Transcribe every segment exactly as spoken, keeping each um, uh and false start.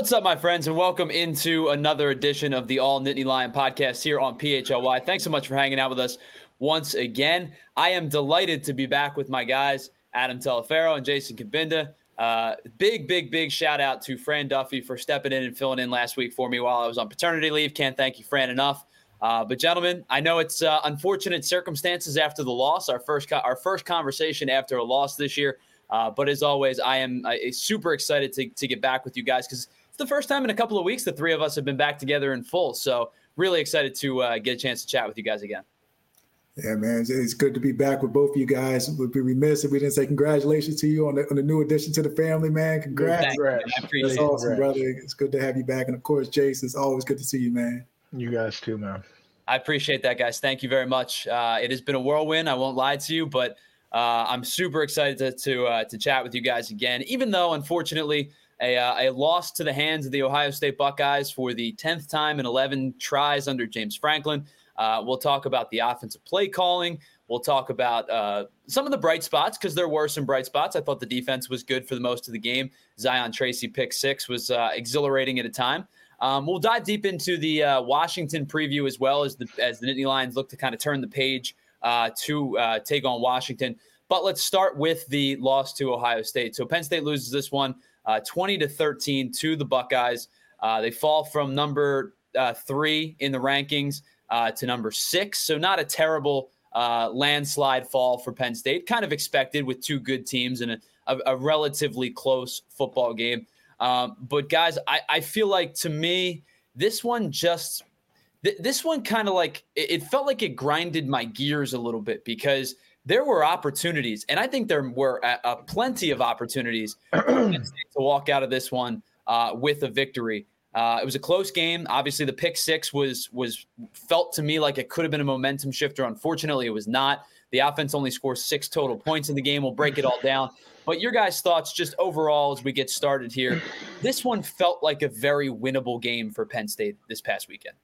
What's up, my friends, and welcome into another edition of the All Nittany Lion podcast here on P H L Y. Thanks so much for hanging out with us once again. I am delighted to be back with my guys, Adam Telefero and Jason Kabinda. Uh, big, big, big shout out to Fran Duffy for stepping in and filling in last week for me while I was on paternity leave. Can't thank you, Fran, enough. Uh, but gentlemen, I know it's uh, unfortunate circumstances after the loss, our first co- our first conversation after a loss this year. Uh, but as always, I am uh, super excited to, to get back with you guys because it's the first time in a couple of weeks the three of us have been back together in full. So really excited to uh, get a chance to chat with you guys again. Yeah, man, it's good to be back with both of you guys. We'd be remiss if we didn't say congratulations to you on the, on the new addition to the family, man. Congrats. Congrats. I appreciate That's awesome, it. brother. It's good to have you back. And, of course, Jace, it's always good to see you, man. You guys too, man. I appreciate that, guys. Thank you very much. Uh, it has been a whirlwind. I won't lie to you, but uh, I'm super excited to to, uh, to chat with you guys again, even though, unfortunately, A, uh, a loss to the hands of the Ohio State Buckeyes for the tenth time in eleven tries under James Franklin. Uh, we'll talk about the offensive play calling. We'll talk about uh, some of the bright spots because there were some bright spots. I thought the defense was good for the most of the game. Zion Tracy pick six was uh, exhilarating at a time. Um, we'll dive deep into the uh, Washington preview as well as the as the Nittany Lions look to kind of turn the page uh, to uh, take on Washington. But let's start with the loss to Ohio State. So Penn State loses this one uh, twenty to thirteen to the Buckeyes. Uh, they fall from number uh, three in the rankings uh, to number six. So not a terrible uh, landslide fall for Penn State. Kind of expected with two good teams and a, a, a relatively close football game. Um, but guys, I, I feel like to me, this one just th- this one kind of like it, it felt like it grinded my gears a little bit because there were opportunities, and I think there were a, a plenty of opportunities to walk out of this one uh, with a victory. Uh, it was a close game. Obviously, the pick six was was felt to me like it could have been a momentum shifter. Unfortunately, it was not. The offense only scores six total points in the game. We'll break it all down. But your guys' thoughts just overall as we get started here. This one felt like a very winnable game for Penn State this past weekend.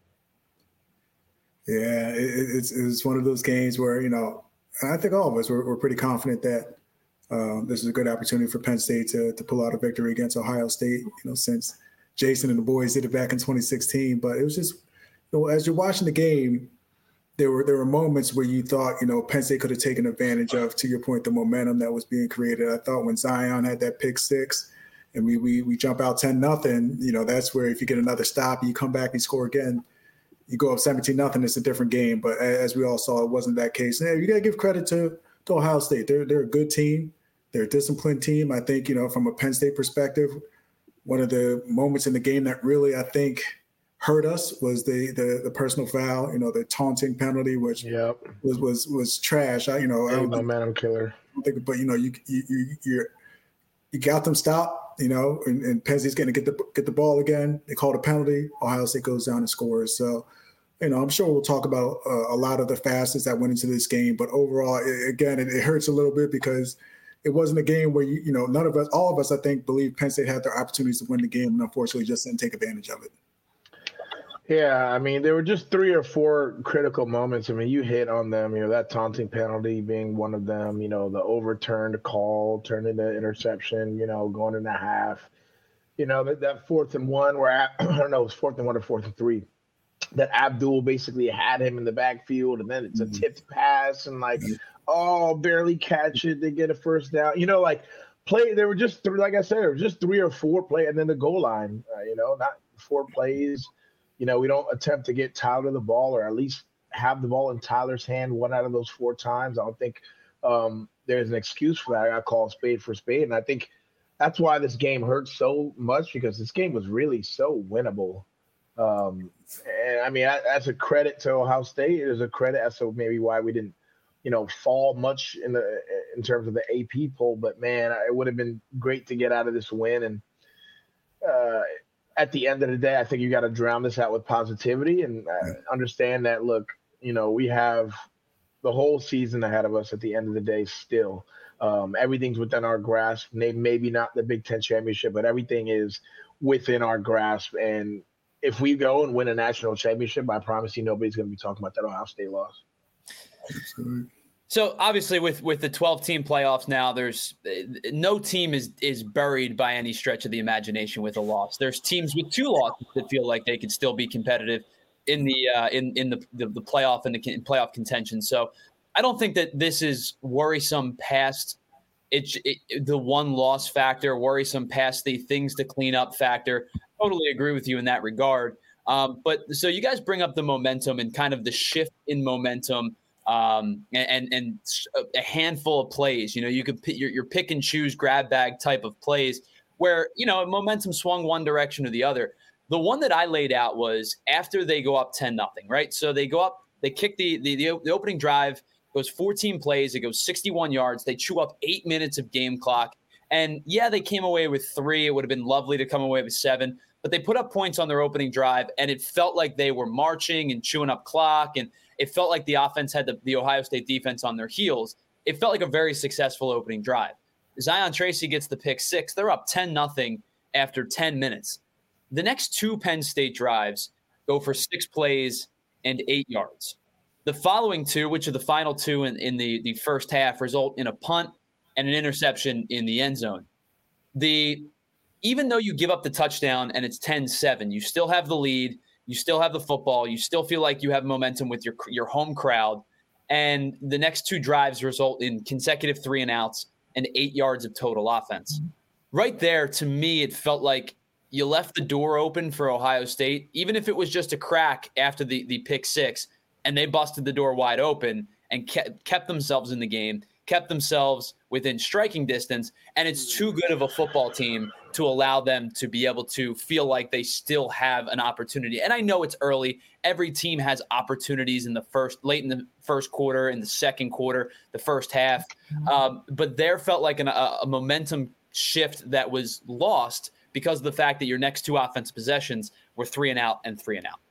Yeah, it, it's it's one of those games where, you know, I think all of us were, were pretty confident that um, this is a good opportunity for Penn State to to pull out a victory against Ohio State, you know, since Jason and the boys did it back in twenty sixteen. But it was just, you know, as you're watching the game, there were there were moments where you thought, you know, Penn State could have taken advantage of, to your point, the momentum that was being created. I thought when Zion had that pick six and we we we jump out ten nothing, you know, that's where if you get another stop, you come back and score again, you go up seventeen nothing, it's a different game. But as we all saw, it wasn't that case. And you got to give credit to, to Ohio State. They're they're a good team. They're a disciplined team. I think, you know, from a Penn State perspective, one of the moments in the game that really, I think, hurt us was the the the personal foul, you know, the taunting penalty, which yep. was was was trash. I, you know, Hey, I don't momentum killer. think, but you know, you you you you're, you got them stopped, you know, and, and Penn State's going to get the get the ball again. They called a penalty. Ohio State goes down and scores. So, you know, I'm sure we'll talk about uh, a lot of the facets that went into this game. But overall, it, again, it, it hurts a little bit because it wasn't a game where you you know none of us, all of us, I think, believe Penn State had their opportunities to win the game, and unfortunately, just didn't take advantage of it. Yeah, I mean, there were just three or four critical moments. I mean, you hit on them, you know, that taunting penalty being one of them, you know, the overturned call turned into interception, you know, going into half. You know, that, that fourth and one where, I don't know, it was fourth and one or fourth and three, that Abdul basically had him in the backfield, and then it's a Mm-hmm. tipped pass, and like, oh, barely catch it, they get a first down. You know, like, play, there were just three, like I said, there were just three or four play, and then the goal line, uh, you know, not four plays. You know, we don't attempt to get Tyler the ball or at least have the ball in Tyler's hand one out of those four times. I don't think um, there's an excuse for that. I call a spade for spade. And I think that's why this game hurts so much, because this game was really so winnable. Um, and, I mean, I, that's a credit to Ohio State. It is a credit as to maybe why we didn't, you know, fall much in the in terms of the A P poll. But, man, it would have been great to get out of this win. And, uh at the end of the day, I think you got to drown this out with positivity and uh, understand that, look, you know, we have the whole season ahead of us at the end of the day still. Um, everything's within our grasp. Maybe not the Big Ten championship, but everything is within our grasp. And if we go and win a national championship, I promise you nobody's going to be talking about that Ohio State loss. Absolutely. So obviously with, with the twelve team playoffs now, there's no team is is buried by any stretch of the imagination with a loss. There's teams with two losses that feel like they could still be competitive in the uh, in in the, the the playoff and the playoff contention. So I don't think that this is worrisome past it, it the one loss factor, worrisome past the things to clean up factor. Totally agree with you in that regard. Um, but so you guys bring up the momentum and kind of the shift in momentum. Um, and, and a handful of plays, you know, you could pick your, your pick and choose grab bag type of plays where, you know, momentum swung one direction or the other. The one that I laid out was after they go up ten nothing, right? So they go up, they kick the, the, the, the opening drive, goes fourteen plays, it goes sixty-one yards. They chew up eight minutes of game clock. And yeah, they came away with three. It would have been lovely to come away with seven, but they put up points on their opening drive and it felt like they were marching and chewing up clock. And it felt like the offense had the, the Ohio State defense on their heels. It felt like a very successful opening drive. Zion Tracy gets the pick six. They're up ten nothing after ten minutes. The next two Penn State drives go for six plays and eight yards. The following two, which are the final two in, in the, the first half, result in a punt and an interception in the end zone. The even though you give up the touchdown and it's ten seven, you still have the lead. You still have the football. You still feel like you have momentum with your your home crowd. And the next two drives result in consecutive three and outs and eight yards of total offense. Right there, to me, it felt like you left the door open for Ohio State, even if it was just a crack after the, the pick six, and they busted the door wide open and kept, kept themselves in the game, kept themselves within striking distance, and it's too good of a football team to allow them to be able to feel like they still have an opportunity. And I know it's early. Every team has opportunities in the first, late in the first quarter, in the second quarter, the first half. Um, but there felt like an, a, a momentum shift that was lost because of the fact that your next two offensive possessions were three and out and three and out.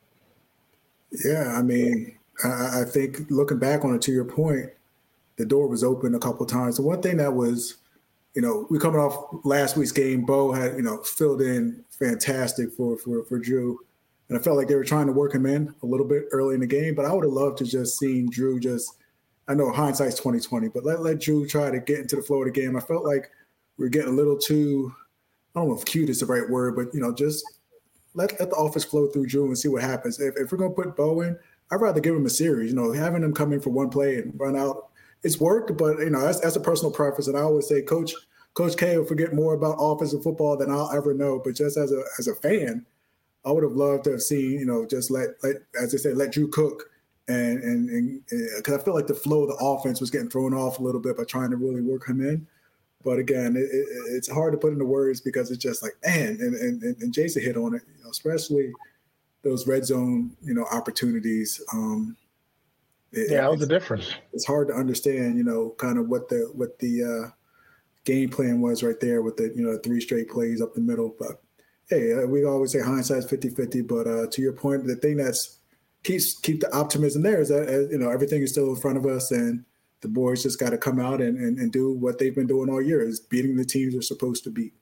Yeah, I mean, I, I think looking back on it, to your point, the door was open a couple of times. The one thing that was, you know, we coming off last week's game, Bo had, you know, filled in fantastic for, for, for Drew. And I felt like they were trying to work him in a little bit early in the game, but I would have loved to just seen Drew just, I know hindsight's twenty twenty, but let, let Drew try to get into the flow of the game. I felt like we were getting a little too, I don't know if cute is the right word, but, you know, just let, let the offense flow through Drew and see what happens. If, if we're going to put Bo in, I'd rather give him a series, you know, having him come in for one play and run out. It's worked, but, you know, that's, that's a personal preference. And I always say Coach Coach K will forget more about offensive football than I'll ever know. But just as a as a fan, I would have loved to have seen, you know, just let, let as they say, let Drew cook. And and and because I feel like the flow of the offense was getting thrown off a little bit by trying to really work him in. But again, it, it, it's hard to put into words because it's just like, man, and, and, and Jason hit on it, you know, especially those red zone, you know, opportunities. Um, it, yeah, that was the difference. It's hard to understand, you know, kind of what the what the uh, game plan was right there with the, you know, three straight plays up the middle. But hey, uh, we always say hindsight's fifty-fifty. But uh, to your point, the thing that's keeps keep the optimism there is that, uh, you know, everything is still in front of us, and the boys just got to come out and, and, and do what they've been doing all year, is beating the teams they're supposed to beat.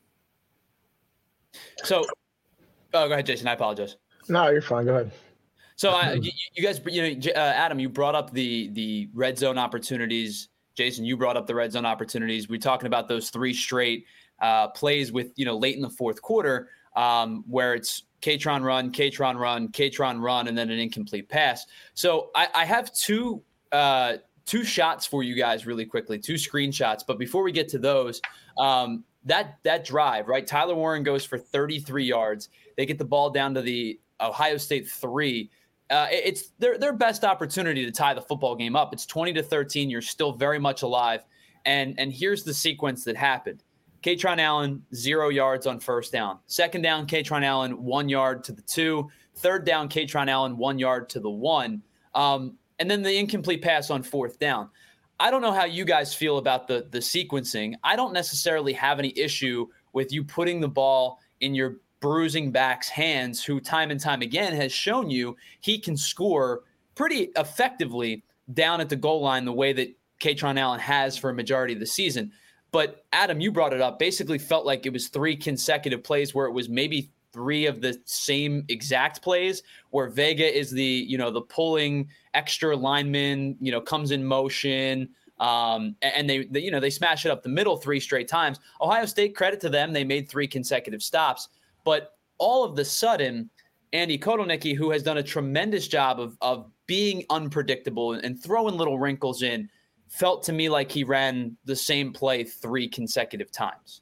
So, oh, go ahead, Jason. I apologize. No, you're fine. Go ahead. So, uh, you, you guys, you know, uh, Adam, you brought up the the red zone opportunities. Jason, you brought up the red zone opportunities. We're talking about those three straight uh, plays with, you know, late in the fourth quarter um, where it's K-Tron run, K-Tron run, K-Tron run, and then an incomplete pass. So I, I have two uh, two shots for you guys really quickly, two screenshots. But before we get to those, um, that that drive, right? Tyler Warren goes for thirty-three yards. They get the ball down to the Ohio State three. Uh, it's their their best opportunity to tie the football game up. It's twenty to thirteen. You're still very much alive. And and here's the sequence that happened. K-Tron Allen, zero yards on first down. Second down, K-Tron Allen, one yard to the two. Third down, K-Tron Allen, one yard to the one. Um, and then the incomplete pass on fourth down. I don't know how you guys feel about the the sequencing. I don't necessarily have any issue with you putting the ball in your bruising back's hands, who time and time again has shown you he can score pretty effectively down at the goal line the way that K-Tron Allen has for a majority of the season. But Adam, you brought it up, basically felt like it was three consecutive plays where it was maybe three of the same exact plays where Vega is the, you know, the pulling extra lineman, you know, comes in motion. Um, and they, they, you know, they smash it up the middle three straight times. Ohio State, credit to them, they made three consecutive stops. But all of the sudden, Andy Kotelnicki, who has done a tremendous job of, of being unpredictable and throwing little wrinkles in, felt to me like he ran the same play three consecutive times.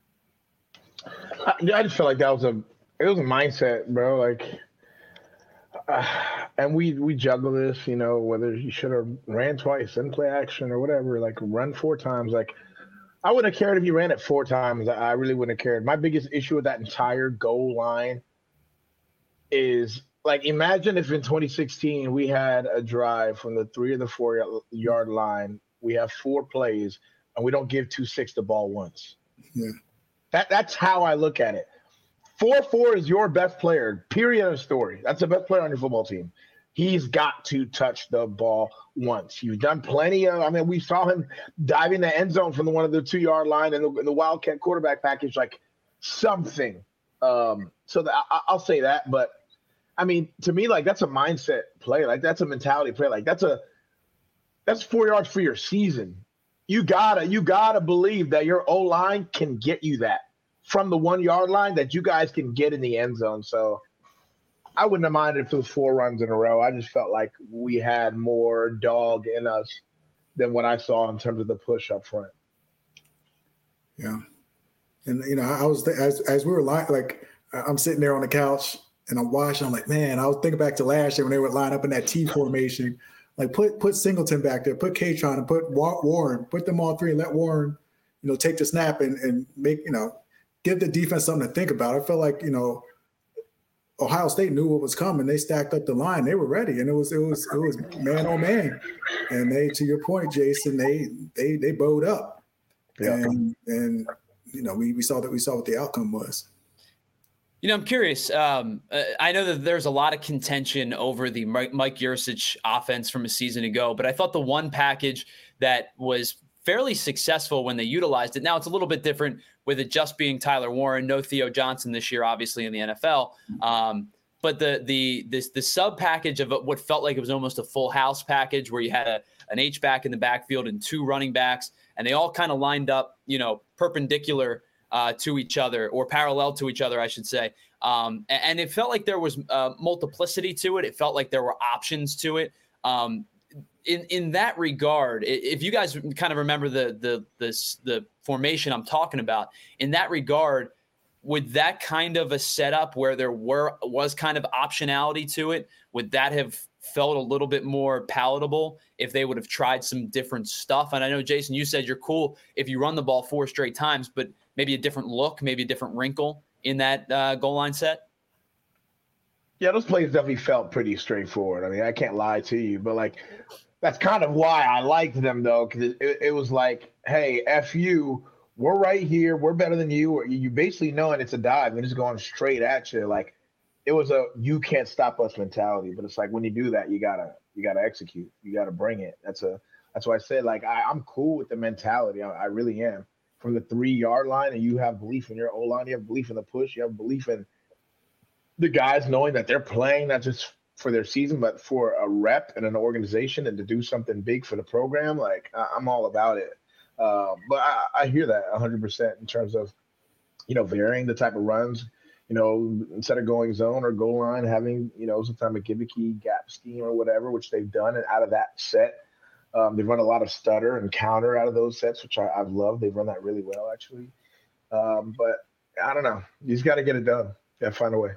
I, I just felt like that was a it was a mindset, bro. Like, uh, and we we juggle this, you know, whether he should have ran twice and play action or whatever. Like, run four times. Like, I wouldn't have cared if he ran it four times. I really wouldn't have cared. My biggest issue with that entire goal line is, like, imagine if in twenty sixteen we had a drive from the three or the four yard line. We have four plays and we don't give two six the ball once. Yeah. That that's how I look at it. four four is your best player, period of story. That's the best player on your football team. He's got to touch the ball once. You've done plenty of, I mean, we saw him diving the end zone from the one of the two-yard line in the, in the Wildcat quarterback package, like something. Um, so the, I, I'll say that. But, I mean, to me, like, that's a mindset play. Like, that's a mentality play. Like, that's a that's four yards for your season. You gotta, you gotta believe that your O-line can get you that from the one-yard line, that you guys can get in the end zone. So I wouldn't have minded if it was four runs in a row. I just felt like we had more dog in us than what I saw in terms of the push up front. Yeah. And, you know, I was, as as we were like, like I'm sitting there on the couch and I'm watching, I'm like, man, I was thinking back to last year when they would line up in that T formation. Like, put put Singleton back there, put Katron and put Warren, put them all three and let Warren, you know, take the snap and, and make, you know, give the defense something to think about. I felt like, you know, Ohio State knew what was coming. They stacked up the line. They were ready, and it was it was it was man on man. And they, to your point, Jason, they they they bowed up. Yeah. And and you know, we we saw that we saw what the outcome was. You know, I'm curious. Um, uh, I know that there's a lot of contention over the Mike, Mike Yurcich offense from a season ago, but I thought the one package that was fairly successful when they utilized it. Now it's a little bit different with it just being Tyler Warren, no Theo Johnson this year, obviously in the N F L. Um, but the the this the sub package of what felt like it was almost a full house package where you had a an H back in the backfield and two running backs, and they all kind of lined up, you know, perpendicular uh, to each other, or parallel to each other, I should say. Um, and, and it felt like there was uh, multiplicity to it. It felt like there were options to it. Um, in in that regard, if you guys kind of remember the the the the formation I'm talking about, in that regard, would that kind of a setup where there were was kind of optionality to it, would that have felt a little bit more palatable if they would have tried some different stuff? And I know, Jason, you said you're cool if you run the ball four straight times, but maybe a different look, maybe a different wrinkle in that uh, goal line set? Yeah, those plays definitely felt pretty straightforward. I mean, I can't lie to you, but, like, that's kind of why I liked them, though, because it, it was like, hey, F you, we're right here, we're better than you. You basically knowing it's a dive and it's going straight at you. Like, it was a you can't stop us mentality. But it's like, when you do that, you gotta you gotta execute. You gotta bring it. That's a that's why I said, like, I, I'm cool with the mentality. I, I really am. From the three yard line, and you have belief in your O line, you have belief in the push, you have belief in the guys knowing that they're playing not just for their season, but for a rep and an organization, and to do something big for the program. Like, I, I'm all about it. Uh, but I, I hear that one hundred percent in terms of, you know, varying the type of runs. You know, instead of going zone or goal line, having, you know, some type of gimmicky gap scheme or whatever, which they've done. And out of that set, um, they've run a lot of stutter and counter out of those sets, which I, I've loved. They've run that really well, actually. Um, but I don't know. You just got to get it done. Got to find a way.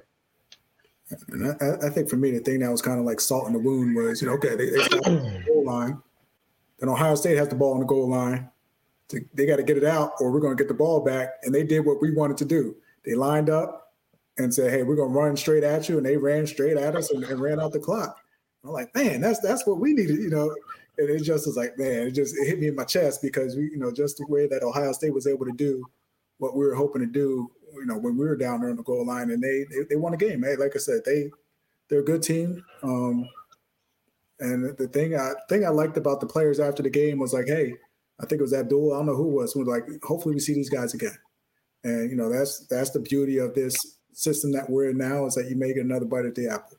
And I, I think for me, the thing that was kind of like salt in the wound was, you know, okay, they, they stopped the goal line. Then Ohio State has the ball on the goal line. To, they got to get it out, or we're going to get the ball back. And they did what we wanted to do. They lined up and said, hey, we're going to run straight at you. And they ran straight at us and, and ran out the clock. I'm like, man, that's that's what we needed, you know. And it just was like, man, it just it hit me in my chest, because, we, you know, just the way that Ohio State was able to do what we were hoping to do, you know, when we were down there on the goal line, and they they, they won a game. Hey, like I said, they they're a good team. Um, and the thing I thing I liked about the players after the game was like, hey, I think it was Abdul, I don't know who it was, who was like, hopefully we see these guys again. And you know, that's that's the beauty of this system that we're in now is that you may get another bite at the apple.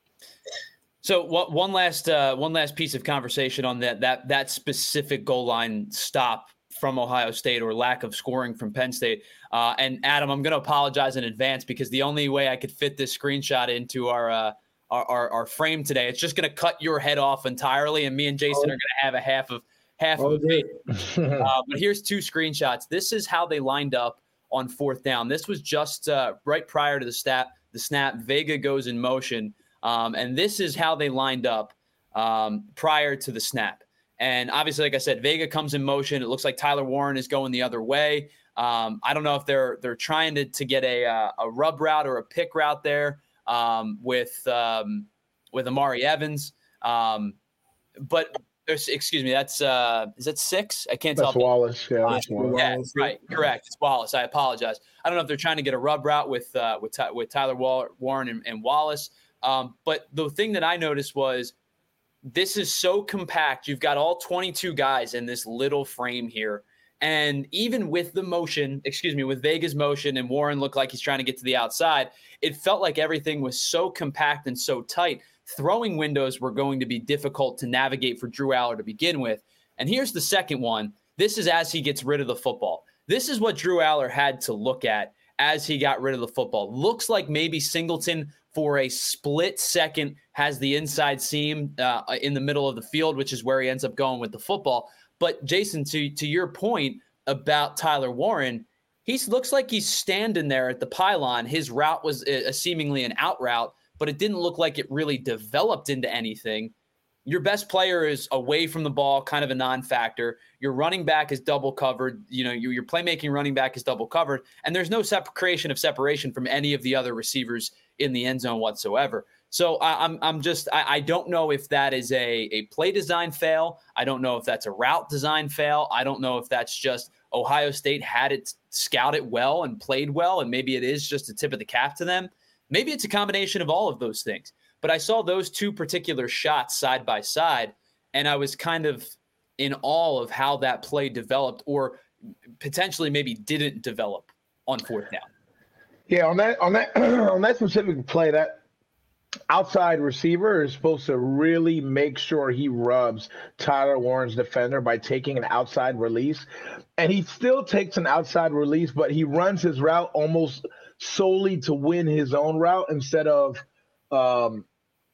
So what, one last uh, one last piece of conversation on that that that specific goal line stop from Ohio State or lack of scoring from Penn State. Uh, and Adam, I'm going to apologize in advance because the only way I could fit this screenshot into our uh, our, our, our frame today, it's just going to cut your head off entirely, and me and Jason oh. are going to have a half of half oh, of it. uh, but here's two screenshots. This is how they lined up on fourth down. This was just uh, right prior to the snap. The snap, Vega goes in motion. Um, and this is how they lined up um, prior to the snap. And obviously, like I said, Vega comes in motion. It looks like Tyler Warren is going the other way. Um, I don't know if they're they're trying to to get a uh, a rub route or a pick route there um, with um, with Amari Evans. Um, but excuse me, that's uh, is that six? I can't that's tell. Wallace. Yeah, that's uh, Wallace. Yeah, right, correct. It's Wallace. I apologize. I don't know if they're trying to get a rub route with uh, with with Tyler Warren and, and Wallace. Um, but the thing that I noticed was this is so compact. You've got all twenty-two guys in this little frame here. And even with the motion, excuse me, with Vega's motion and Warren looked like he's trying to get to the outside, it felt like everything was so compact and so tight. Throwing windows were going to be difficult to navigate for Drew Allar to begin with. And here's the second one. This is as he gets rid of the football. This is what Drew Allar had to look at as he got rid of the football. Looks like maybe Singleton for a split second has the inside seam uh, in the middle of the field, which is where he ends up going with the football. But Jason, to, to your point about Tyler Warren, he looks like he's standing there at the pylon. His route was a, a seemingly an out route, but it didn't look like it really developed into anything. Your best player is away from the ball, kind of a non-factor. Your running back is double covered. You know, your, your playmaking running back is double covered, and there's no sep- creation of separation from any of the other receivers in the end zone whatsoever. So I, I'm I'm just I, I don't know if that is a a play design fail. I don't know if that's a route design fail. I don't know if that's just Ohio State had it scouted well and played well, and maybe it is just a tip of the cap to them. Maybe it's a combination of all of those things. But I saw those two particular shots side by side, and I was kind of in awe of how that play developed or potentially maybe didn't develop on fourth down. Yeah, on that on that on that specific play, that outside receiver is supposed to really make sure he rubs Tyler Warren's defender by taking an outside release. And he still takes an outside release, but he runs his route almost solely to win his own route instead of um,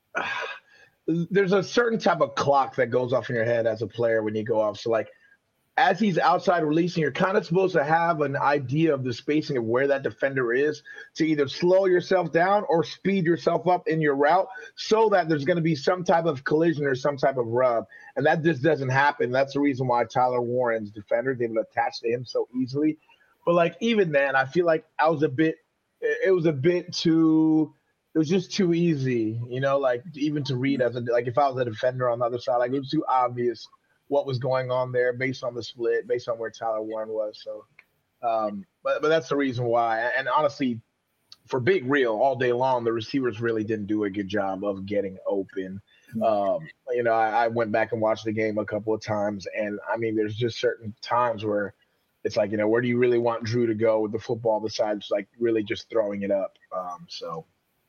there's a certain type of clock that goes off in your head as a player when you go off. So like as he's outside releasing, you're kind of supposed to have an idea of the spacing of where that defender is to either slow yourself down or speed yourself up in your route so that there's going to be some type of collision or some type of rub. And that just doesn't happen. That's the reason why Tyler Warren's defender is able to attach to him so easily. But like even then, I feel like I was a bit, it was a bit too, it was just too easy, you know, like even to read as a, like if I was a defender on the other side, like it was too obvious what was going on there based on the split, based on where Tyler Warren was. So, um, but but that's the reason why. And honestly, for Big Real, all day long, the receivers really didn't do a good job of getting open. Um, you know, I, I went back and watched the game a couple of times, and I mean, there's just certain times where it's like, you know, where do you really want Drew to go with the football besides like really just throwing it up? Um, so,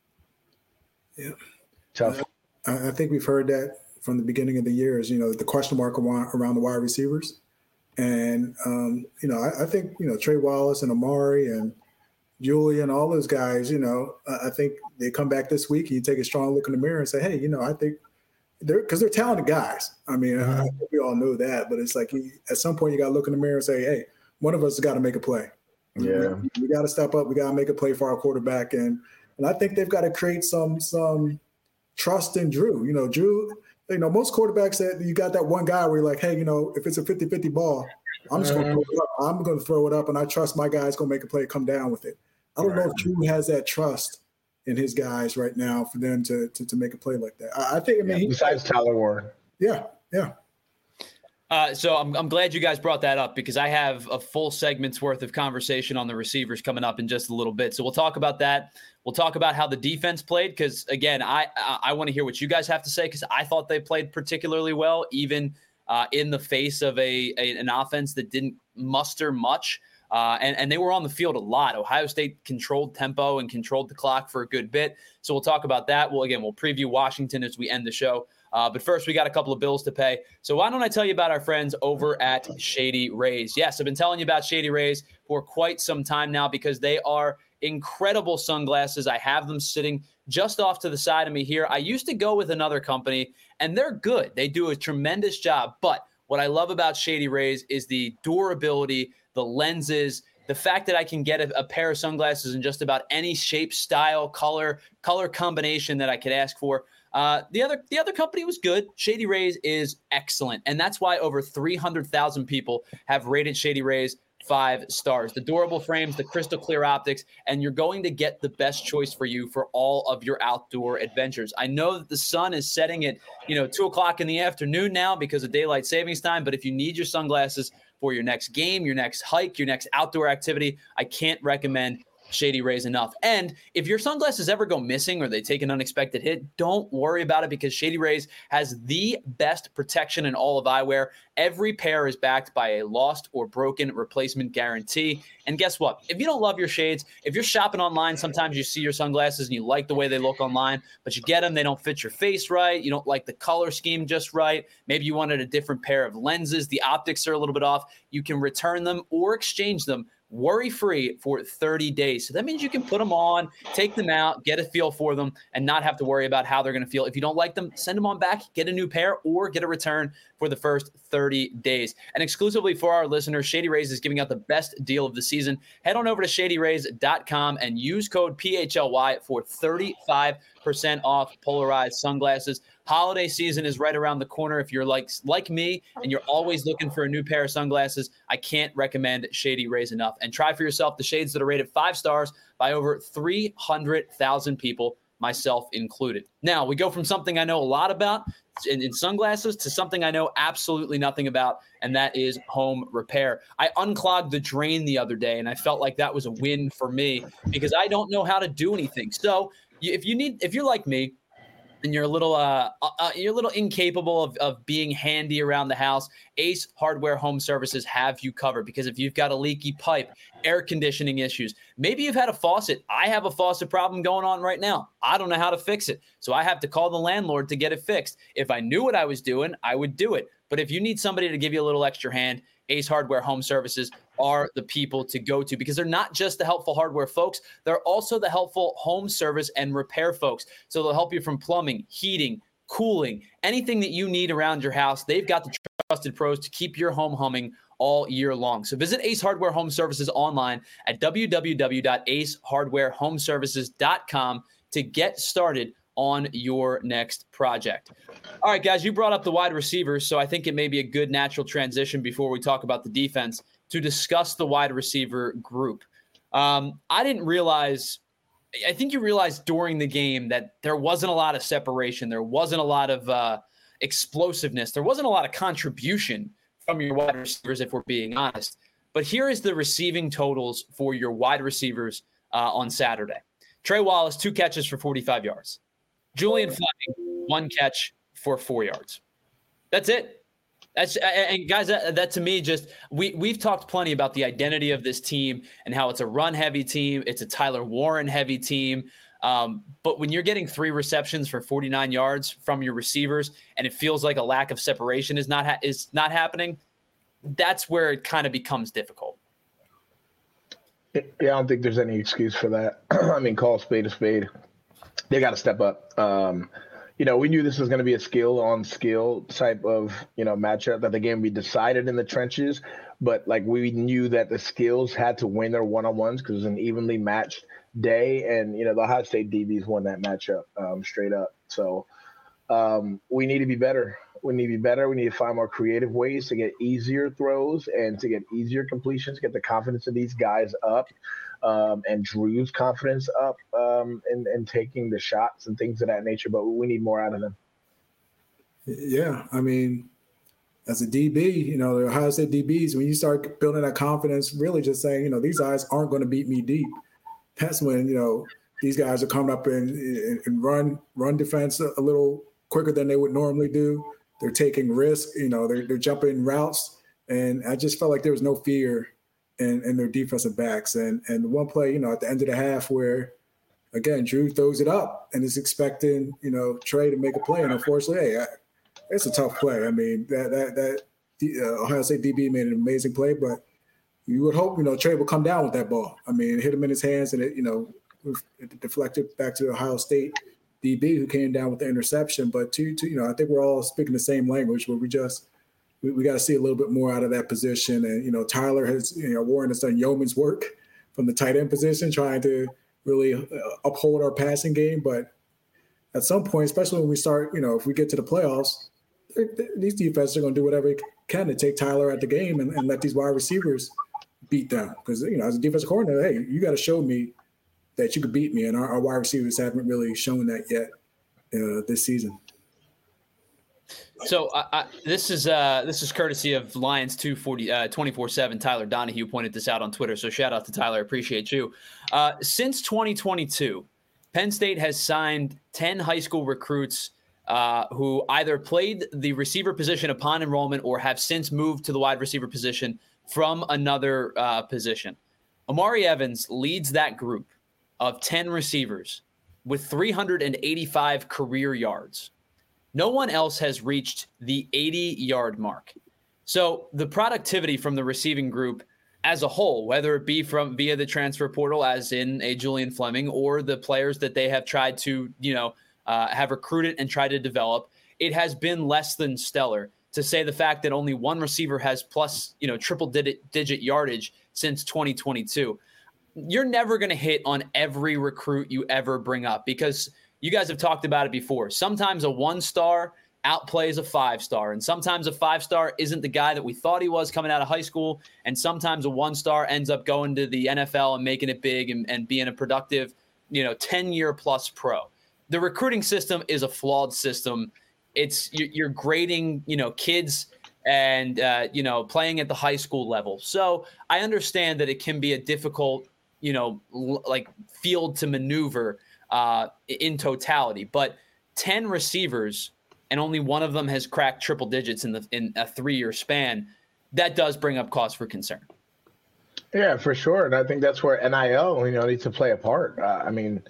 yeah, tough. Uh, I think we've heard that from the beginning of the year is, you know, the question mark around the wide receivers. And, um, you know, I, I think, you know, Trey Wallace and Amari and Julian, all those guys, you know, uh, I think they come back this week and you take a strong look in the mirror and say, hey, you know, I think they're – because they're talented guys. I mean, mm-hmm. I think we all know that. But it's like you, at some point you got to look in the mirror and say, hey, one of us has got to make a play. Yeah. We, we got to step up. We got to make a play for our quarterback. And and I think they've got to create some some trust in Drew. You know, Drew – you know, most quarterbacks that you got that one guy where you're like, hey, you know, if it's a fifty-fifty ball, I'm just going to throw it up. I'm going to throw it up, and I trust my guy's going to make a play, come down with it. I don't right. know if Drew has that trust in his guys right now for them to to, to make a play like that. I, I think, I mean, yeah, besides he, Tyler Warren. Yeah, yeah. Uh, so I'm I'm glad you guys brought that up because I have a full segment's worth of conversation on the receivers coming up in just a little bit. So we'll talk about that. We'll talk about how the defense played because, again, I I, I want to hear what you guys have to say because I thought they played particularly well, even uh, in the face of a, a an offense that didn't muster much. Uh, and, and they were on the field a lot. Ohio State controlled tempo and controlled the clock for a good bit. So we'll talk about that. Well, again, we'll preview Washington as we end the show. Uh, but first, we got a couple of bills to pay. So why don't I tell you about our friends over at Shady Rays? Yes, I've been telling you about Shady Rays for quite some time now because they are incredible sunglasses. I have them sitting just off to the side of me here. I used to go with another company, and they're good. They do a tremendous job. But what I love about Shady Rays is the durability, the lenses, the fact that I can get a, a pair of sunglasses in just about any shape, style, color, color combination that I could ask for. Uh, the other the other company was good. Shady Rays is excellent. And that's why over three hundred thousand people have rated Shady Rays five stars. The durable frames, the crystal clear optics, and you're going to get the best choice for you for all of your outdoor adventures. I know that the sun is setting at, you know, two o'clock in the afternoon now because of daylight savings time. But if you need your sunglasses for your next game, your next hike, your next outdoor activity, I can't recommend Shady Rays enough. And if your sunglasses ever go missing or they take an unexpected hit, don't worry about it because Shady Rays has the best protection in all of eyewear. Every pair is backed by a lost or broken replacement guarantee. And guess what? If you don't love your shades, if you're shopping online, sometimes you see your sunglasses and you like the way they look online, but you get them, they don't fit your face right. You don't like the color scheme just right. Maybe you wanted a different pair of lenses. The optics are a little bit off. You can return them or exchange them worry-free for thirty days. So that means you can put them on, take them out, get a feel for them, and not have to worry about how they're going to feel. If you don't like them, send them on back, get a new pair, or get a return for the first thirty days. And exclusively for our listeners, Shady Rays is giving out the best deal of the season. Head on over to shady rays dot com and use code P H L Y for thirty-five percent off polarized sunglasses. Holiday season is right around the corner. If you're like like me and you're always looking for a new pair of sunglasses, I can't recommend Shady Rays enough. And try for yourself the shades that are rated five stars by over three hundred thousand people, myself included. Now, we go from something I know a lot about in, in sunglasses to something I know absolutely nothing about, and that is home repair. I unclogged the drain the other day, and I felt like that was a win for me because I don't know how to do anything. So if you need, if you're like me, and you're a little uh, uh, you're a little incapable of, of being handy around the house, Ace Hardware Home Services have you covered. Because if you've got a leaky pipe, air conditioning issues, maybe you've had a faucet. I have a faucet problem going on right now. I don't know how to fix it. So I have to call the landlord to get it fixed. If I knew what I was doing, I would do it. But if you need somebody to give you a little extra hand, Ace Hardware Home Services are the people to go to because they're not just the helpful hardware folks. They're also the helpful home service and repair folks. So they'll help you from plumbing, heating, cooling, anything that you need around your house. They've got the trusted pros to keep your home humming all year long. So visit Ace Hardware Home Services online at w w w dot ace hardware home services dot com to get started on your next project. All right, guys, you brought up the wide receivers, so I think it may be a good natural transition before we talk about the defense to discuss the wide receiver group. Um, I didn't realize, I think you realized during the game that there wasn't a lot of separation. There wasn't a lot of uh, explosiveness. There wasn't a lot of contribution from your wide receivers, if we're being honest. But here is the receiving totals for your wide receivers uh, on Saturday. Trey Wallace, two catches for forty-five yards. Julian Fleming, one catch for four yards. That's it. That's and guys, that, that to me just we we've talked plenty about the identity of this team and how it's a run-heavy team, it's a Tyler Warren-heavy team. Um, but when you're getting three receptions for forty-nine yards from your receivers, and it feels like a lack of separation is not ha- is not happening, that's where it kind of becomes difficult. Yeah, I don't think there's any excuse for that. I mean, call a spade a spade. They got to step up. Um, you know, we knew this was going to be a skill on skill type of, you know, matchup, that the game would be decided in the trenches. But like we knew that the skills had to win their one-on-ones because it was an evenly matched day. And, you know, the Ohio State D Bs won that matchup um, straight up. So um, we need to be better. We need to be better. We need to find more creative ways to get easier throws and to get easier completions, get the confidence of these guys up. Um, and Drew's confidence up um, in, in taking the shots and things of that nature, but we need more out of them. Yeah, I mean, as a D B, you know, the Ohio State D Bs, when you start building that confidence, really just saying, you know, these guys aren't going to beat me deep. That's when, you know, these guys are coming up and, and, and run run defense a, a little quicker than they would normally do. They're taking risks, you know, they're, they're jumping routes. And I just felt like there was no fear and, and their defensive backs. And and the one play, you know, at the end of the half where, again, Drew throws it up and is expecting, you know, Trey to make a play. And unfortunately, hey, it's a tough play. I mean, that that that uh, Ohio State D B made an amazing play, but you would hope, you know, Trey would come down with that ball. I mean, it hit him in his hands, and it, you know, it deflected back to the Ohio State D B who came down with the interception. But to, to you know, I think we're all speaking the same language where we just we, we got to see a little bit more out of that position. And you know, Tyler has, you know, Warren has done yeoman's work from the tight end position, trying to really uh, uphold our passing game. But at some point, especially when we start, you know, if we get to the playoffs, these defenses are going to do whatever they can to take Tyler out the game and, and let these wide receivers beat them. Because, you know, as a defensive coordinator, hey, you got to show me that you could beat me. And our, our wide receivers haven't really shown that yet uh, this season. So uh, I, this is uh, this is courtesy of Lions two forty, uh, twenty-four seven. Tyler Donahue pointed this out on Twitter. So shout out to Tyler. Appreciate you. Uh, since twenty twenty-two, Penn State has signed ten high school recruits uh, who either played the receiver position upon enrollment or have since moved to the wide receiver position from another uh, position. Omari Evans leads that group of ten receivers with three hundred eighty-five career yards. No one else has reached the eighty-yard mark. So the productivity from the receiving group as a whole, whether it be from via the transfer portal, as in a Julian Fleming, or the players that they have tried to, you know, uh, have recruited and tried to develop, it has been less than stellar. To say the fact that only one receiver has plus, you know, triple digit, digit yardage since twenty twenty-two. You're never going to hit on every recruit you ever bring up, because you guys have talked about it before. Sometimes a one-star outplays a five-star, and sometimes a five-star isn't the guy that we thought he was coming out of high school, and sometimes a one-star ends up going to the N F L and making it big and, and being a productive, you know, ten-year-plus pro. The recruiting system is a flawed system. It's you're grading, you know, kids and, uh, you know, playing at the high school level. So I understand that it can be a difficult, you know, l- like field to maneuver uh, in totality, but ten receivers and only one of them has cracked triple digits in the in a three-year span. That does bring up cause for concern. Yeah, for sure. And I think that's where N I L, you know, needs to play a part. Uh, I mean,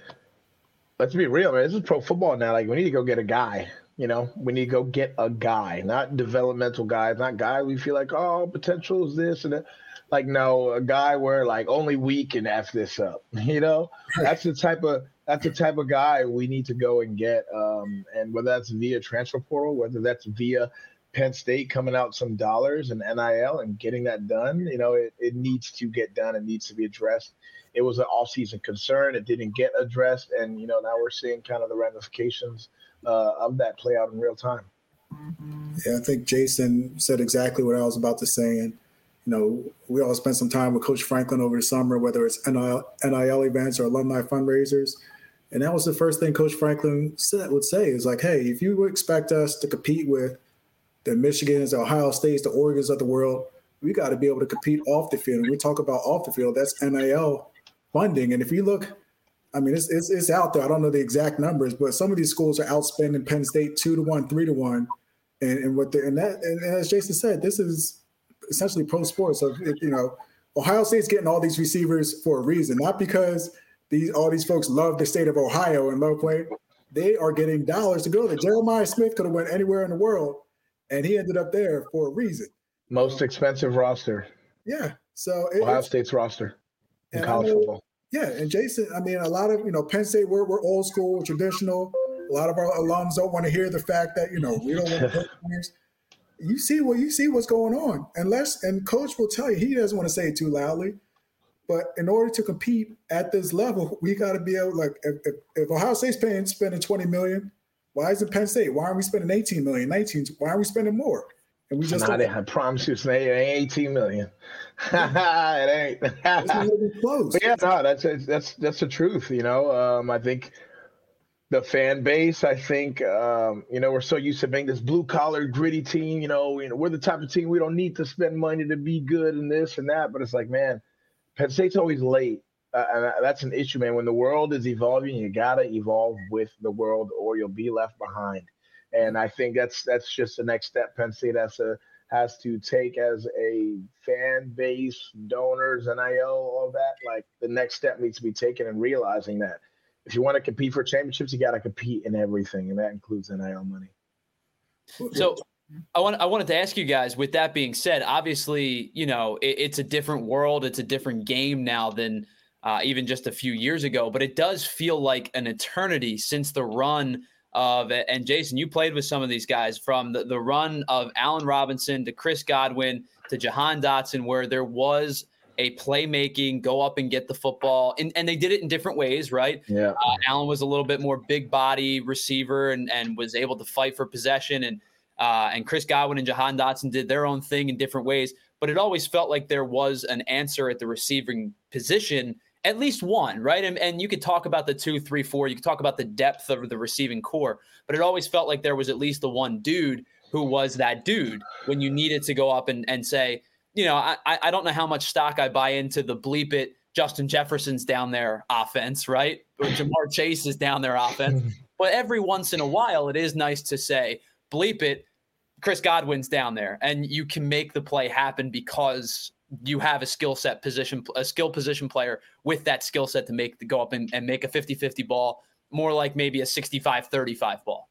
let's be real, man. This is pro football now. Like, we need to go get a guy. You know, we need to go get a guy, not developmental guys, not guys we feel like, oh, potential is this and that. Like, no, a guy where, like, only we can F this up. You know, that's the type of that's the type of guy we need to go and get. Um, and whether that's via transfer portal, whether that's via Penn State coming out some dollars and N I L and getting that done, you know, it, it needs to get done. It needs to be addressed. It was an off-season concern. It didn't get addressed. And, you know, now we're seeing kind of the ramifications uh, of that play out in real time. Yeah, I think Jason said exactly what I was about to say. And, you know, we all spent some time with Coach Franklin over the summer, whether it's N I L, N I L events or alumni fundraisers. And that was the first thing Coach Franklin said, would say is like, hey, if you would expect us to compete with the Michigans, the Ohio States, the Oregons of the world, we got to be able to compete off the field. And we talk about off the field, that's N I L funding. And if you look, I mean, it's, it's it's out there. I don't know the exact numbers, but some of these schools are outspending Penn State two to one, three to one. And, and what the, and that and as Jason said, this is essentially pro sports. So, it, you know, Ohio State's getting all these receivers for a reason, not because these all these folks love the state of Ohio and love playing. They are getting dollars to go there. Jeremiah Smith could have went anywhere in the world, and he ended up there for a reason. Most expensive roster. Yeah. So it, Ohio State's roster in college know, football. Yeah, and Jason, I mean, a lot of, you know, Penn State, we're, we're old school, traditional. A lot of our alums don't want to hear the fact that, you know, we don't want to play games. You see what you see what's going on. Unless, and Coach will tell you, he doesn't want to say it too loudly. But in order to compete at this level, we got to be able, like, if, if, if Ohio State's paying spending twenty million dollars, why isn't Penn State? Why aren't we spending eighteen million dollars, nineteen? Why aren't we spending more? And we just not, I promise you, it ain't eighteen million dollars. It ain't. It's not even close. But yeah, no, that's that's that's the truth. You know, um, I think the fan base. I think um, you know, we're so used to being this blue collar, gritty team. You know, you know, we're the type of team we don't need to spend money to be good and this and that. But it's like, man, Penn State's always late, uh, and that's an issue, man. When the world is evolving, you gotta evolve with the world, or you'll be left behind. And I think that's that's just the next step Penn State has to has to take as a fan base, donors, N I L, all of that. Like the next step needs to be taken and realizing that if you want to compete for championships, you got to compete in everything, and that includes N I L money. So I want I wanted to ask you guys, with that being said, obviously, you know, it, it's a different world. It's a different game now than uh, even just a few years ago, but it does feel like an eternity since the run of, and Jason, you played with some of these guys, from the, the run of Allen Robinson to Chris Godwin to Jahan Dotson, where there was a playmaking, go up and get the football. And, and they did it in different ways, right? Yeah. Uh, Allen was a little bit more big body receiver and, and was able to fight for possession. And uh, and Chris Godwin and Jahan Dotson did their own thing in different ways. But it always felt like there was an answer at the receiving position, at least one, right? And, and you could talk about the two, three, four. You could talk about the depth of the receiving core. But it always felt like there was at least the one dude who was that dude when you needed to go up and, and say, you know, I, I don't know how much stock I buy into the bleep it, Justin Jefferson's down there offense, right? Or Jamar Chase is down there offense. But every once in a while, it is nice to say, bleep it, Chris Godwin's down there. And you can make the play happen because you have a skill set position, a skill position player with that skill set to make the go up and, and make a fifty-fifty ball, more like maybe a sixty-five thirty-five ball.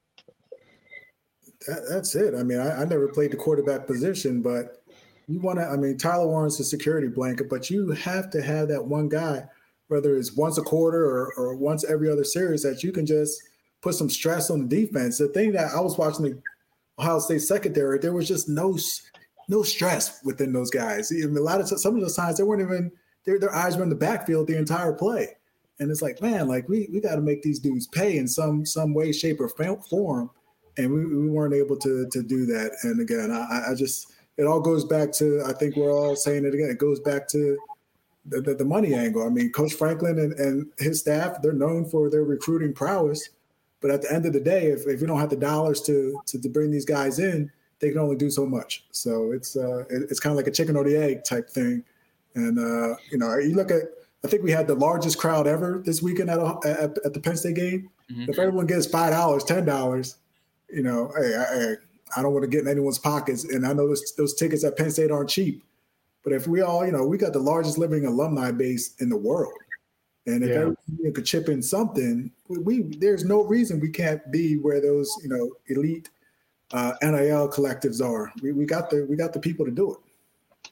That, that's it. I mean, I, I never played the quarterback position, but you want to, I mean, Tyler Warren's a security blanket, but you have to have that one guy, whether it's once a quarter or, or once every other series, that you can just put some stress on the defense. The thing that I was watching the Ohio State secondary, there was just no no stress within those guys. I mean, a lot of some of those times they weren't even their their eyes were in the backfield the entire play, and it's like, man, like we we got to make these dudes pay in some some way, shape, or form, and we, we weren't able to to do that. And again, I, I just it all goes back to, I think we're all saying it again, it goes back to the, the, the money angle. I mean, Coach Franklin and, and his staff, they're known for their recruiting prowess. But at the end of the day, if, if you don't have the dollars to, to to bring these guys in, they can only do so much. So it's uh, it, it's kind of like a chicken or the egg type thing. And, uh, you know, you look at, I think we had the largest crowd ever this weekend at at, at the Penn State game. Mm-hmm. If everyone gets five dollars, ten dollars, you know, hey, I, I don't want to get in anyone's pockets. And I know those, those tickets at Penn State aren't cheap. But if we all, you know, we got the largest living alumni base in the world. And if yeah. everyone could chip in something, we, we there's no reason we can't be where those, you know, elite uh, N I L collectives are. We we got the we got the people to do it.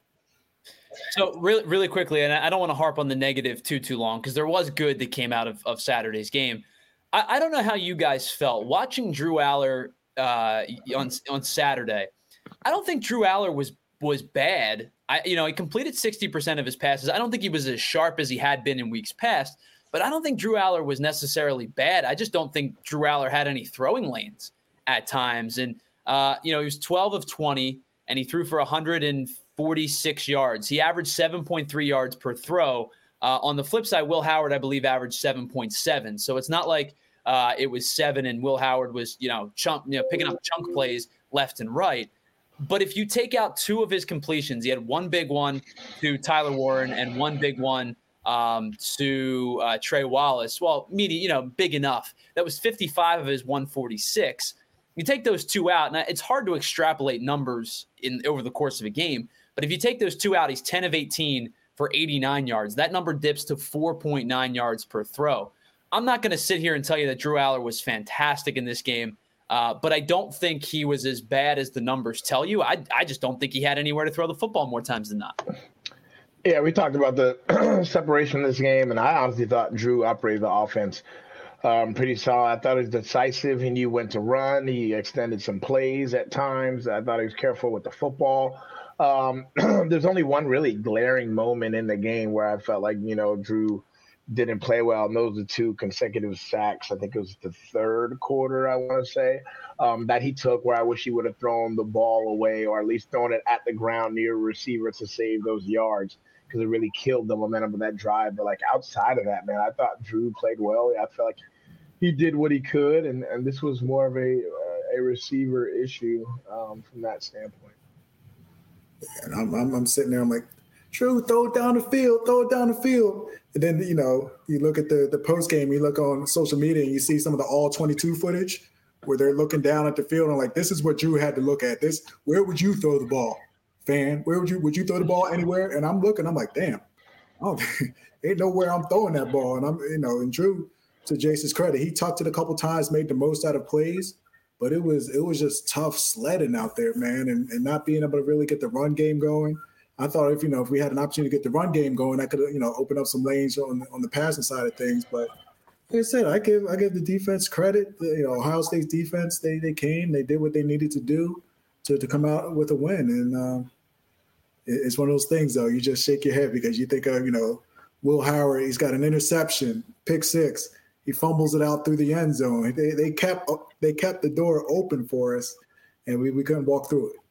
So really, really quickly, and I don't want to harp on the negative too too long, because there was good that came out of, of Saturday's game. I, I don't know how you guys felt watching Drew Aller uh, on on Saturday. I don't think Drew Aller was was bad. I, you know, he completed sixty percent of his passes. I don't think he was as sharp as he had been in weeks past, but I don't think Drew Aller was necessarily bad. I just don't think Drew Aller had any throwing lanes at times. And, uh, you know, he was twelve of twenty, and he threw for one hundred forty-six yards. He averaged seven point three yards per throw. Uh, on the flip side, Will Howard, I believe, averaged seven point seven. So it's not like uh, it was seven and Will Howard was, you know, chunk, you know, picking up chunk plays left and right. But if you take out two of his completions, he had one big one to Tyler Warren and one big one um, to uh, Trey Wallace. Well, meaning, you know, big enough. That was fifty-five of his one forty-six. You take those two out, and it's hard to extrapolate numbers in over the course of a game. But if you take those two out, he's ten of eighteen for eighty-nine yards. That number dips to four point nine yards per throw. I'm not going to sit here and tell you that Drew Aller was fantastic in this game. Uh, but I don't think he was as bad as the numbers tell you. I I just don't think he had anywhere to throw the football more times than not. Yeah, we talked about the separation of this game, and I honestly thought Drew operated the offense um, pretty solid. I thought he was decisive. He knew when to run. He extended some plays at times. I thought he was careful with the football. Um, there's only one really glaring moment in the game where I felt like, you know, Drew didn't play well, and those are two consecutive sacks. I think it was the third quarter, I want to say, um, that he took, where I wish he would have thrown the ball away, or at least thrown it at the ground near a receiver to save those yards, because it really killed the momentum of that drive. But, like, outside of that, man, I thought Drew played well. I felt like he did what he could, and, and this was more of a uh, a receiver issue um, from that standpoint. And I'm, I'm, I'm sitting there, I'm like, Drew, throw it down the field, throw it down the field. And then, you know, you look at the, the post game, you look on social media and you see some of the all twenty-two footage where they're looking down at the field and like, this is what Drew had to look at. This, where would you throw the ball, fan? Where would you would you throw the ball anywhere? And I'm looking, I'm like, damn, oh, ain't nowhere I'm throwing that ball. And I'm, you know, and Drew, to Jason's credit, he tucked it a couple times, made the most out of plays, but it was it was just tough sledding out there, man, and, and not being able to really get the run game going. I thought if you know if we had an opportunity to get the run game going, I could you know open up some lanes on the, on the passing side of things. But like I said, I give I give the defense credit. The, you know, Ohio State's defense, they they came, they did what they needed to do to to come out with a win, and um, it, it's one of those things though. You just shake your head because you think of you know Will Howard. He's got an interception, pick six. He fumbles it out through the end zone. They they kept they kept the door open for us, and we, we couldn't walk through it.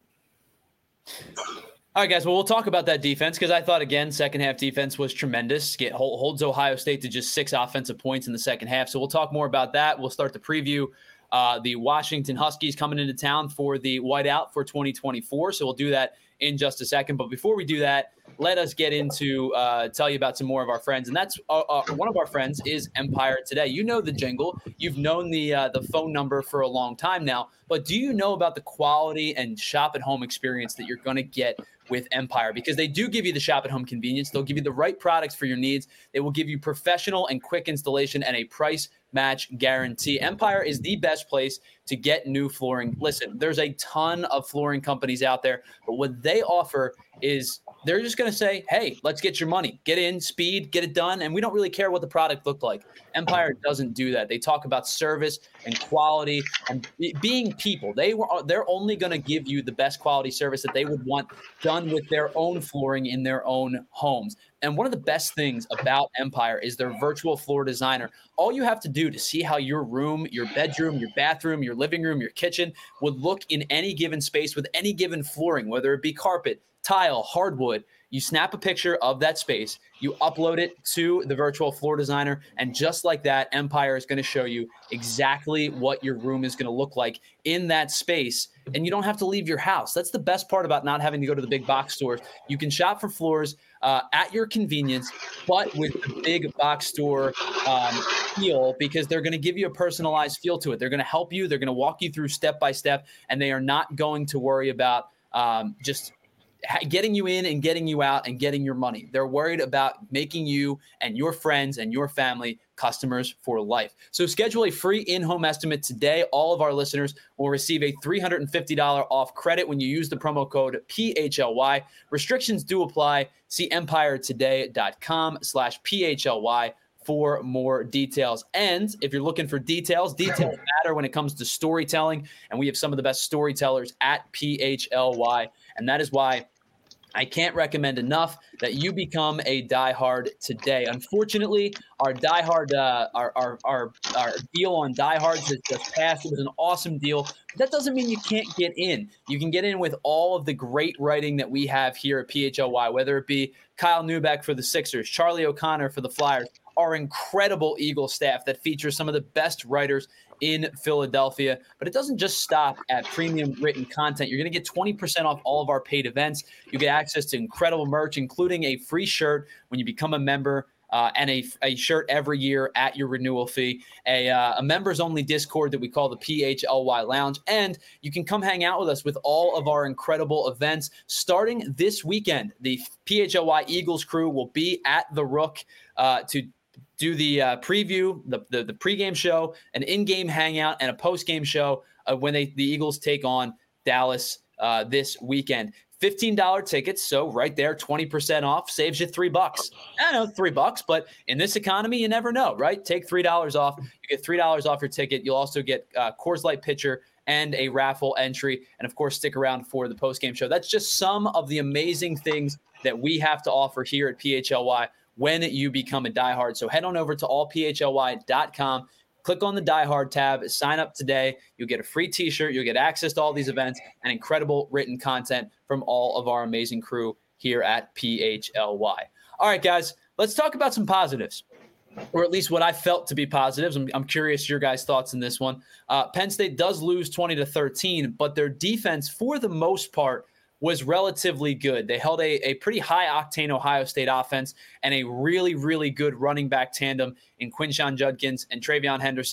All right, guys. Well, we'll talk about that defense because I thought, again, second half defense was tremendous. Get holds Ohio State to just six offensive points in the second half. So we'll talk more about that. We'll start the preview. Uh, the Washington Huskies coming into town for the whiteout for twenty twenty-four. So we'll do that in just a second. But before we do that, let us get into uh, tell you about some more of our friends. And that's uh, uh, one of our friends is Empire Today. You know the jingle. You've known the uh, the phone number for a long time now. But do you know about the quality and shop at home experience that you're going to get with Empire? Because they do give you the shop at home convenience. They'll give you the right products for your needs. They will give you professional and quick installation and a price match guarantee. Empire is the best place to get new flooring. Listen, there's a ton of flooring companies out there, but what they offer is they're just going to say, hey, let's get your money. Get in, speed, get it done, and we don't really care what the product looked like. Empire doesn't do that. They talk about service and quality and being people. They were, they're only going to give you the best quality service that they would want done with their own flooring in their own homes. And one of the best things about Empire is their virtual floor designer. All you have to do to see how your room, your bedroom, your bathroom, your living room, your kitchen would look in any given space with any given flooring, whether it be carpet, tile, hardwood. You snap a picture of that space, you upload it to the virtual floor designer, and just like that, Empire is going to show you exactly what your room is going to look like in that space, and you don't have to leave your house. That's the best part about not having to go to the big box stores. You can shop for floors uh, at your convenience, but with the big box store um, feel, because they're going to give you a personalized feel to it. They're going to help you. They're going to walk you through step by step, and they are not going to worry about um, just – getting you in and getting you out and getting your money. They're worried about making you and your friends and your family customers for life. So schedule a free in-home estimate today. All of our listeners will receive a three hundred fifty dollars off credit when you use the promo code P H L Y. Restrictions do apply. See empiretoday.com slash P H L Y for more details. And if you're looking for details, details matter when it comes to storytelling. And we have some of the best storytellers at P H L Y. And that is why I can't recommend enough that you become a diehard today. Unfortunately, our diehard, uh, our, our our our deal on diehards has just passed. It was an awesome deal. But that doesn't mean you can't get in. You can get in with all of the great writing that we have here at P H L Y, whether it be Kyle Neubeck for the Sixers, Charlie O'Connor for the Flyers, our incredible Eagle staff that features some of the best writers in Philadelphia. But it doesn't just stop at premium written content. You're going to get twenty percent off all of our paid events. You get access to incredible merch, including a free shirt when you become a member, uh, and a, a shirt every year at your renewal fee, a, uh, a members-only Discord that we call the P H L Y Lounge, and you can come hang out with us with all of our incredible events. Starting this weekend, the P H L Y Eagles crew will be at the Rook uh, to do the uh, preview, the, the the pregame show, an in-game hangout, and a post-game show uh, when they the Eagles take on Dallas uh, this weekend. fifteen dollars tickets, so right there, twenty percent off, saves you three bucks. I know, three bucks, but in this economy, you never know, right? Take three dollars off. You get three dollars off your ticket. You'll also get uh, Coors Light pitcher and a raffle entry, and of course, stick around for the post-game show. That's just some of the amazing things that we have to offer here at P H L Y when you become a diehard. So head on over to all P H L Y dot com, click on the diehard tab, sign up today. You'll get a free t-shirt. You'll get access to all these events and incredible written content from all of our amazing crew here at P H L Y. All right, guys, let's talk about some positives, or at least what I felt to be positives. I'm, I'm curious your guys' thoughts in this one. Uh, Penn State does lose twenty to thirteen, but their defense, for the most part, was relatively good. They held a, a pretty high-octane Ohio State offense and a really, really good running back tandem in Quinshon Judkins and Travion Henderson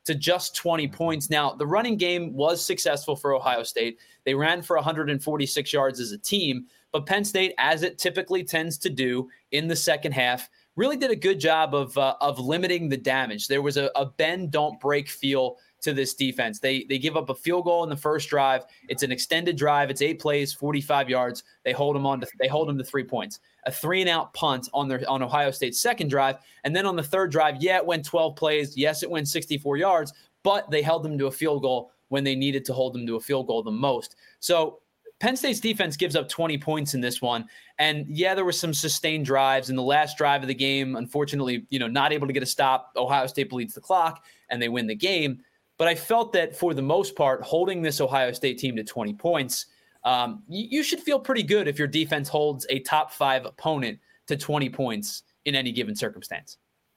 to just twenty points. Now, the running game was successful for Ohio State. They ran for one hundred forty-six yards as a team, but Penn State, as it typically tends to do in the second half, really did a good job of uh, of limiting the damage. There was a, a bend, don't break feel to this defense. They they give up a field goal in the first drive. It's an extended drive. It's eight plays, forty-five yards. They hold them on to, they hold them to three points. A three and out punt on their on Ohio State's second drive, and then on the third drive, yeah, it went twelve plays. Yes, it went sixty-four yards, but they held them to a field goal when they needed to hold them to a field goal the most. So Penn State's defense gives up twenty points in this one. And yeah, there were some sustained drives in the last drive of the game. Unfortunately, you know, not able to get a stop. Ohio State bleeds the clock and they win the game. But I felt that for the most part, holding this Ohio State team to twenty points, um, you, you should feel pretty good if your defense holds a top five opponent to twenty points in any given circumstance.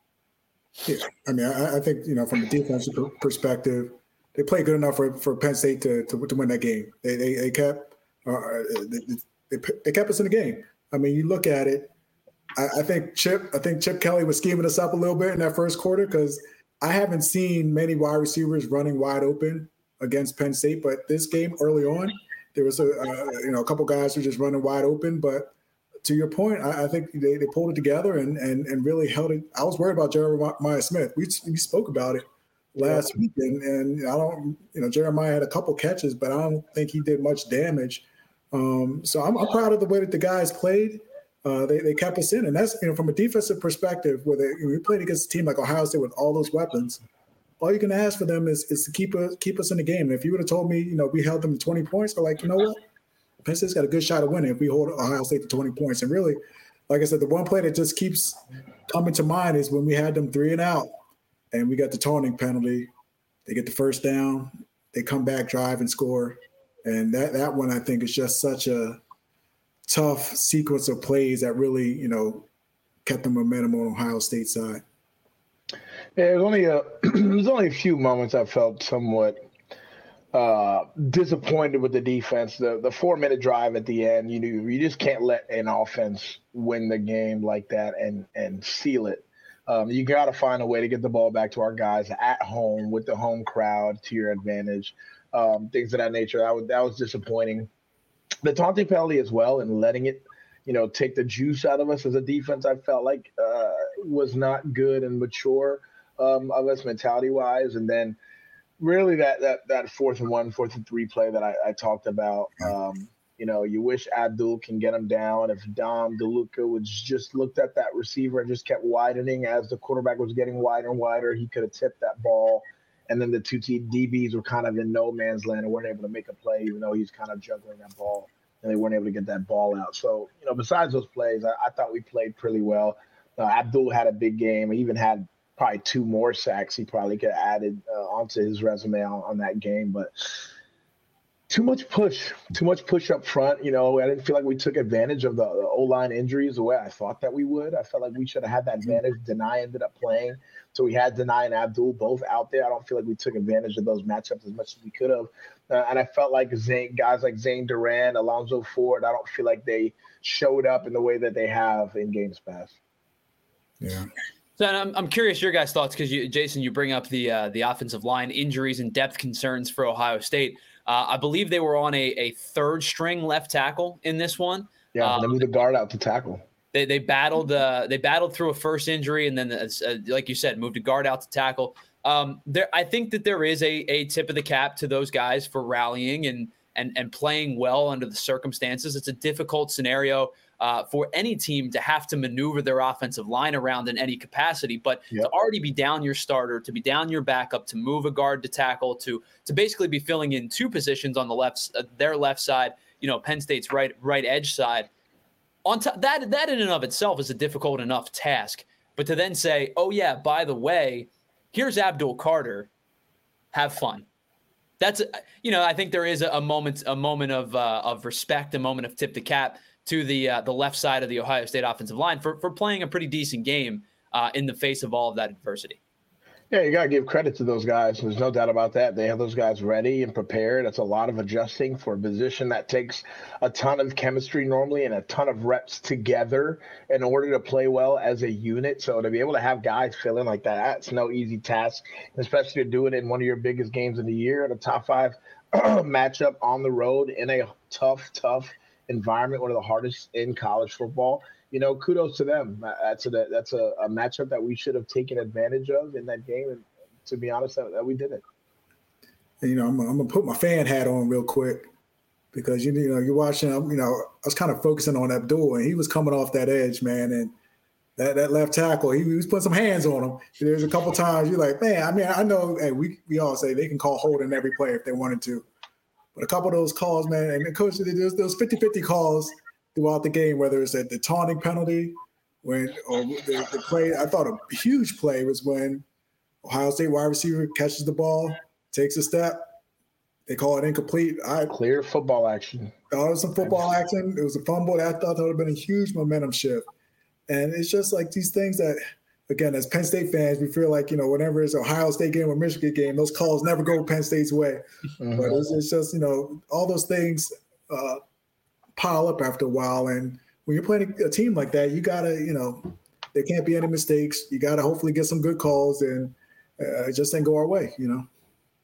Yeah, I mean, I, I think, you know, from a defensive perspective, they played good enough for, for Penn State to, to to win that game. They they, they kept uh, they, they, they kept us in the game. I mean, you look at it. I, I think Chip I think Chip Kelly was scheming us up a little bit in that first quarter because I haven't seen many wide receivers running wide open against Penn State. But this game early on, there was a uh, you know a couple guys who were just running wide open. But to your point, I, I think they, they pulled it together and and and really held it. I was worried about Jeremiah Smith. We we spoke about it last week, and, and I don't, you know, Jeremiah had a couple catches, but I don't think he did much damage. Um, so I'm, I'm proud of the way that the guys played. Uh, they they kept us in, and that's, you know, from a defensive perspective, where they, you know, we played against a team like Ohio State with all those weapons. All you can ask for them is is to keep us keep us in the game. And if you would have told me, you know, we held them to twenty points, I'm like, you know what, Penn State's got a good shot of winning if we hold Ohio State to twenty points. And really, like I said, the one play that just keeps coming to mind is when we had them three and out. And we got the taunting penalty. They get the first down. They come back, drive, and score. And that that one, I think, is just such a tough sequence of plays that really, you know, kept the momentum on Ohio State's side. Yeah, it was only a it was only a few moments I felt somewhat uh, disappointed with the defense. The the four minute drive at the end, you knew you just can't let an offense win the game like that and and seal it. Um, you got to find a way to get the ball back to our guys at home with the home crowd to your advantage, um, things of that nature. That was, that was disappointing. The taunting penalty as well and letting it, you know, take the juice out of us as a defense, I felt like uh, was not good and mature um, of us mentality-wise. And then really that that that fourth and one, fourth and three play that I, I talked about, um, you know, you wish Abdul can get him down. If Dom DeLuca was just looked at that receiver and just kept widening as the quarterback was getting wider and wider, he could have tipped that ball. And then the two D Bs were kind of in no man's land and weren't able to make a play, even though he's kind of juggling that ball, and they weren't able to get that ball out. So, you know, besides those plays, I, I thought we played pretty well. Uh, Abdul had a big game. He even had probably two more sacks he probably could have added uh, onto his resume on, on that game. But too much push, too much push up front. You know, I didn't feel like we took advantage of the, the O-line injuries the way I thought that we would. I felt like we should have had that advantage. Deny ended up playing. So we had Deny and Abdul both out there. I don't feel like we took advantage of those matchups as much as we could have. Uh, and I felt like Zane, guys like Zane Duran, Alonzo Ford, I don't feel like they showed up in the way that they have in games past. Yeah. So I'm I'm curious your guys' thoughts because you, Jason, you bring up the uh, the offensive line injuries and depth concerns for Ohio State. Uh, I believe they were on a, a third string left tackle in this one. Yeah, um, they moved the guard out to tackle. They they battled uh, they battled through a first injury and then, uh, like you said, moved a guard out to tackle. Um, there, I think that there is a a tip of the cap to those guys for rallying and and and playing well under the circumstances. It's a difficult scenario uh, for any team to have to maneuver their offensive line around in any capacity. But yep. to already be down your starter, to be down your backup, to move a guard to tackle, to to basically be filling in two positions on the left, uh, their left side, you know, Penn State's right right edge side. On top, that that in and of itself is a difficult enough task. But to then say, oh yeah, by the way, here's Abdul Carter, have fun. That's, you know, I think there is a, a moment, a moment of uh, of respect, a moment of tip the cap to the uh, the left side of the Ohio State offensive line for for playing a pretty decent game uh, in the face of all of that adversity. Yeah, you got to give credit to those guys. There's no doubt about that. They have those guys ready and prepared. That's a lot of adjusting for a position that takes a ton of chemistry normally and a ton of reps together in order to play well as a unit. So to be able to have guys fill in like that, that's no easy task, especially to do it in one of your biggest games of the year in a top five matchup on the road in a tough, tough environment, one of the hardest in college football. You know, kudos to them. That's a that's a, a matchup that we should have taken advantage of in that game, and to be honest, that, that we didn't. And, you know, I'm, I'm gonna put my fan hat on real quick because you, you know you're watching. You know, I was kind of focusing on Abdul, and he was coming off that edge, man, and that, that left tackle, he, he was putting some hands on him. There's a couple times you're like, man, I mean, I know, hey, we we all say they can call holding every play if they wanted to, but a couple of those calls, man, and the coach, there's those fifty-fifty calls throughout the game, whether it's at the taunting penalty, when or the, the play. I thought a huge play was when Ohio State wide receiver catches the ball, takes a step, they call it incomplete. I Clear football action. Thought it was some football action. It was a fumble. I thought that would have been a huge momentum shift. And it's just like these things that, again, as Penn State fans, we feel like, you know, whenever it's Ohio State game or Michigan game, those calls never go Penn State's way. Mm-hmm. But it's, it's just, you know, all those things uh, pile up after a while. And when you're playing a team like that, you got to, you know, there can't be any mistakes. You got to hopefully get some good calls, and uh, it just ain't go our way, you know.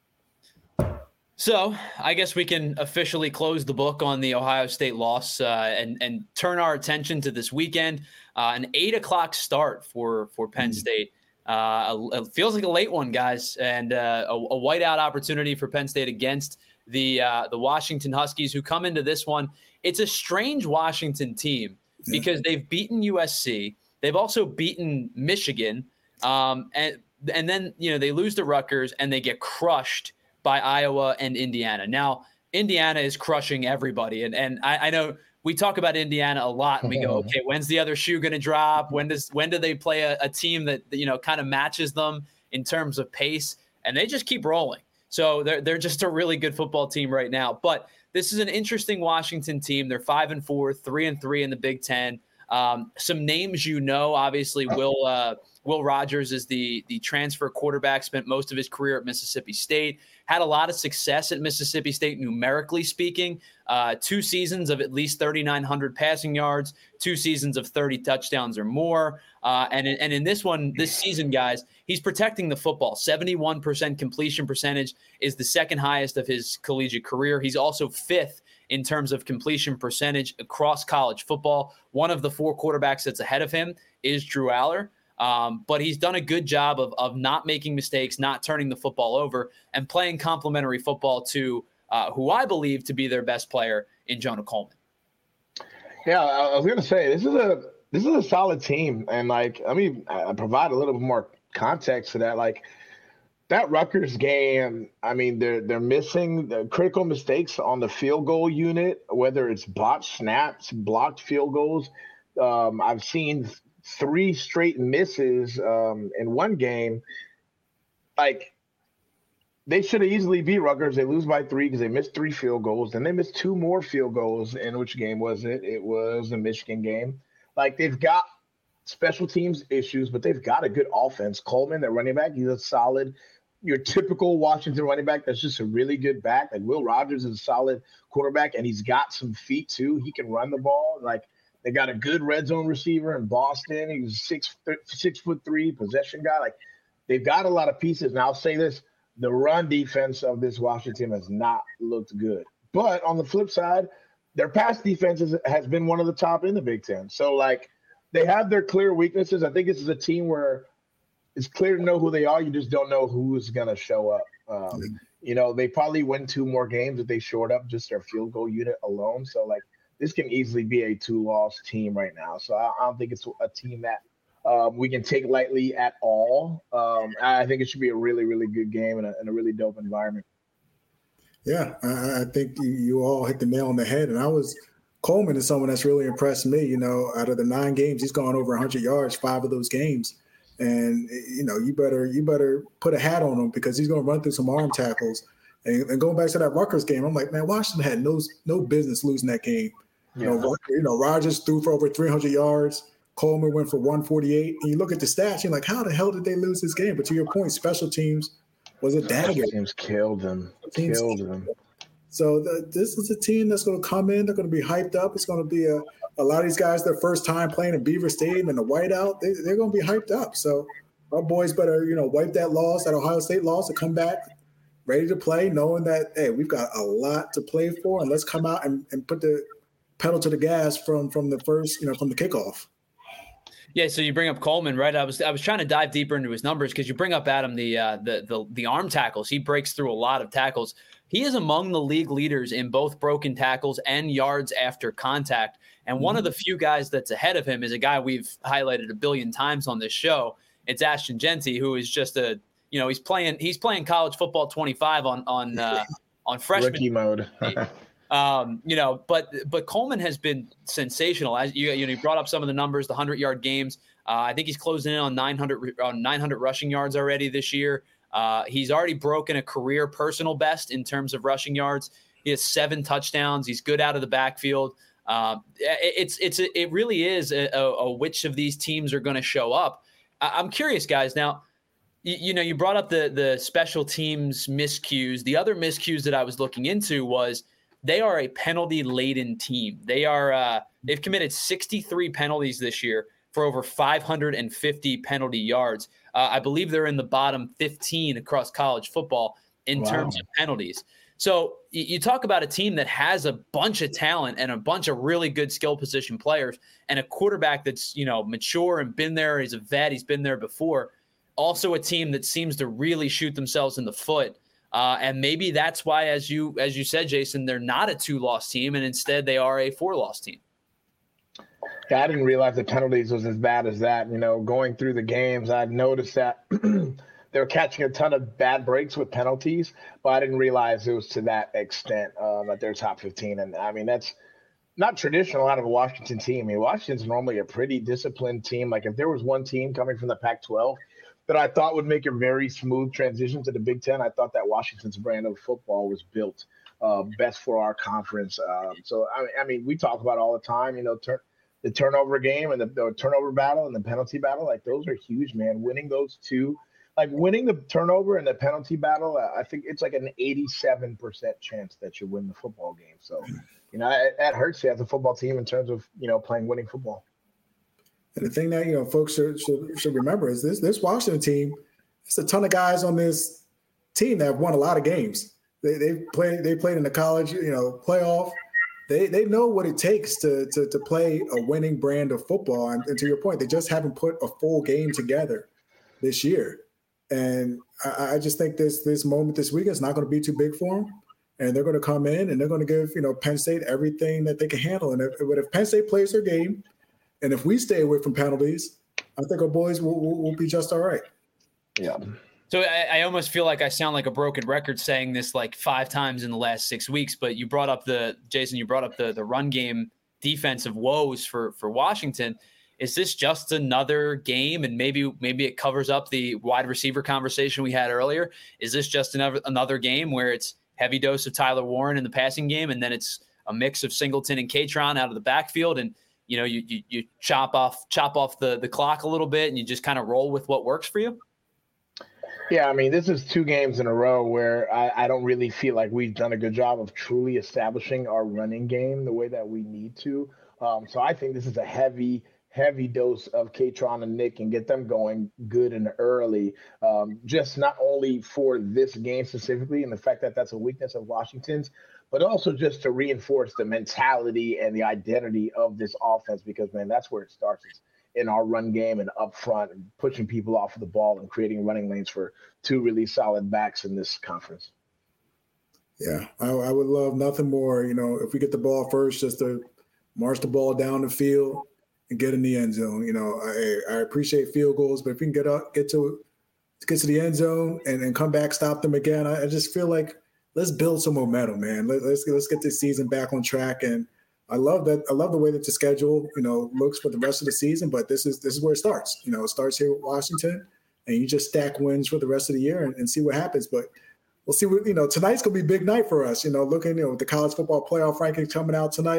So I guess we can officially close the book on the Ohio State loss uh, and, and turn our attention to this weekend. Uh, an eight o'clock start for, for Penn State. Uh, it feels like a late one, guys, and uh, a, a whiteout opportunity for Penn State against the uh, the Washington Huskies, who come into this one. It's a strange Washington team because they've beaten U S C. They've also beaten Michigan. Um, and, and then, you know, they lose to Rutgers and they get crushed by Iowa and Indiana. Now, Indiana is crushing everybody. And and I, I know we talk about Indiana a lot, and we go, okay, when's the other shoe going to drop? When does when do they play a, a team that, you know, kind of matches them in terms of pace? And they just keep rolling. So they're they're just a really good football team right now. But this is an interesting Washington team. They're five and four, three and three in the Big Ten. Um, some names, you know, obviously Will uh, Will Rogers is the the transfer quarterback, spent most of his career at Mississippi State, had a lot of success at Mississippi State numerically speaking, uh, two seasons of at least thirty-nine hundred passing yards, two seasons of thirty touchdowns or more. Uh, and, and in this one, this season, guys, he's protecting the football. seventy-one percent completion percentage is the second highest of his collegiate career. He's also fifth in terms of completion percentage across college football. One of the four quarterbacks that's ahead of him is Drew Aller. Um, but he's done a good job of, of not making mistakes, not turning the football over, and playing complementary football to uh, who I believe to be their best player in Jonah Coleman. Yeah, I was going to say, this is a this is a solid team. And, like, I mean, I provide a little bit more context to that. Like, that Rutgers game, I mean, they're they're missing the critical mistakes on the field goal unit, whether it's botched snaps, blocked field goals. Um, I've seen three straight misses um, in one game. Like, they should have easily beat Rutgers. They lose by three because they missed three field goals. Then they missed two more field goals. In which game was it? It was the Michigan game. Like, they've got special teams issues, but they've got a good offense. Coleman, their running back, he's a solid – your typical Washington running back that's just a really good back. Like, Will Rogers is a solid quarterback, and he's got some feet too. He can run the ball. Like, they got a good red zone receiver in Boston. He's six six foot three possession guy. Like, they've got a lot of pieces. And I'll say this: the run defense of this Washington team has not looked good. But on the flip side, their pass defense is, has been one of the top in the Big Ten. So, like, they have their clear weaknesses. I think this is a team where it's clear to know who they are. You just don't know who's going to show up. Um, you know, they probably win two more games if they short up just their field goal unit alone. So, like, this can easily be a two-loss team right now. So I, I don't think it's a team that um, we can take lightly at all. Um, I think it should be a really, really good game and a, and a really dope environment. Yeah, I, I think you, you all hit the nail on the head. And I was – Coleman is someone that's really impressed me. You know, out of the nine games, he's gone over one hundred yards, five of those games. And, you know, you better you better put a hat on him because he's going to run through some arm tackles. And, and going back to that Rutgers game, I'm like, man, Washington had no no business losing that game. Yeah. You know, you know, Rogers threw for over three hundred yards. Coleman went for one forty-eight. And you look at the stats, you're like, how the hell did they lose this game? But to your point, special teams was a dagger. Special teams killed them. Teams killed them. So the, this is a team that's going to come in. They're going to be hyped up. It's going to be a, a lot of these guys, their first time playing in Beaver Stadium and the whiteout. They, they're going to be hyped up. So our boys better, you know, wipe that loss, that Ohio State loss, and come back ready to play, knowing that, hey, we've got a lot to play for, and let's come out and, and put the pedal to the gas from from the first, you know, from the kickoff. Yeah, so you bring up Coleman, right? I was I was trying to dive deeper into his numbers because you bring up Adam the uh, the the the arm tackles. He breaks through a lot of tackles. He is among the league leaders in both broken tackles and yards after contact. And mm-hmm. one of the few guys that's ahead of him is a guy we've highlighted a billion times on this show. It's Ashton Jeanty, who is just a you know he's playing he's playing college football twenty-five on on uh, on freshman rookie mode. Um, you know, but but Coleman has been sensational. As you you know, you brought up some of the numbers, the hundred-yard games. Uh, I think he's closing in on nine hundred on nine hundred rushing yards already this year. Uh, he's already broken a career personal best in terms of rushing yards. He has seven touchdowns. He's good out of the backfield. Uh, it, it's it's it really is a, a, a which of these teams are going to show up. I, I'm curious, guys. Now, you, you know, you brought up the the special teams miscues. The other miscues that I was looking into was they are a penalty-laden team. They are uh, they've committed sixty-three penalties this year for over five hundred fifty penalty yards. Uh, I believe they're in the bottom fifteen across college football in wow. terms of penalties. So you, you talk about a team that has a bunch of talent and a bunch of really good skill position players and a quarterback that's, you know, mature and been there. He's a vet. He's been there before. Also a team that seems to really shoot themselves in the foot. Uh, and maybe that's why, as you as you said, Jason, they're not a two-loss team, and instead they are a four-loss team. Yeah, I didn't realize the penalties was as bad as that. You know, going through the games, I noticed that they were catching a ton of bad breaks with penalties, but I didn't realize it was to that extent uh, that they're top fifteen. And, I mean, that's not traditional out of a Washington team. I mean, Washington's normally a pretty disciplined team. Like, if there was one team coming from the Pac twelve that I thought would make a very smooth transition to the Big Ten, I thought that Washington's brand of football was built uh, best for our conference. Um, so, I, I mean, we talk about all the time, you know, turn, the turnover game and the, the turnover battle and the penalty battle. Like, those are huge, man. Winning those two, like winning the turnover and the penalty battle, I think it's like an eighty-seven percent chance that you win the football game. So, you know, it, that hurts you as a football team in terms of, you know, playing winning football. And the thing that, you know, folks should, should, should remember is this this Washington team, there's a ton of guys on this team that have won a lot of games. They they played they played in the college, you know, playoff. They they know what it takes to to, to play a winning brand of football. And, and to your point, they just haven't put a full game together this year. And I, I just think this this moment this week is not going to be too big for them. And they're going to come in and they're going to give, you know, Penn State everything that they can handle. And if, if Penn State plays their game, and if we stay away from penalties, I think our boys will, will, will be just all right. Yeah. So I, I almost feel like I sound like a broken record saying this like five times in the last six weeks. But you brought up the Jason, you brought up the the run game defensive woes for for Washington. Is this just another game, and maybe maybe it covers up the wide receiver conversation we had earlier? Is this just another another game where it's heavy dose of Tyler Warren in the passing game, and then it's a mix of Singleton and Katron out of the backfield, and you know, you, you you chop off chop off the the clock a little bit, and you just kind of roll with what works for you? Yeah, I mean, this is two games in a row where I, I don't really feel like we've done a good job of truly establishing our running game the way that we need to. Um, so I think this is a heavy, heavy dose of Katron and Nick and get them going good and early. Um, just not only for this game specifically and the fact that that's a weakness of Washington's, but also just to reinforce the mentality and the identity of this offense, because, man, that's where it starts, is in our run game and up front and pushing people off of the ball and creating running lanes for two really solid backs in this conference. Yeah, I, I would love nothing more, you know, if we get the ball first, just to march the ball down the field and get in the end zone. You know, I, I appreciate field goals, but if we can get up, get to get to the end zone and, and come back, stop them again, I, I just feel like let's build some momentum, man. Let, let's let's get this season back on track. And I love that. I love the way that the schedule, you know, looks for the rest of the season. But this is this is where it starts. You know, it starts here with Washington, and you just stack wins for the rest of the year and, and see what happens. But we'll see what, you know, tonight's gonna be a big night for us. You know, looking, you know, with the college football playoff rankings coming out tonight,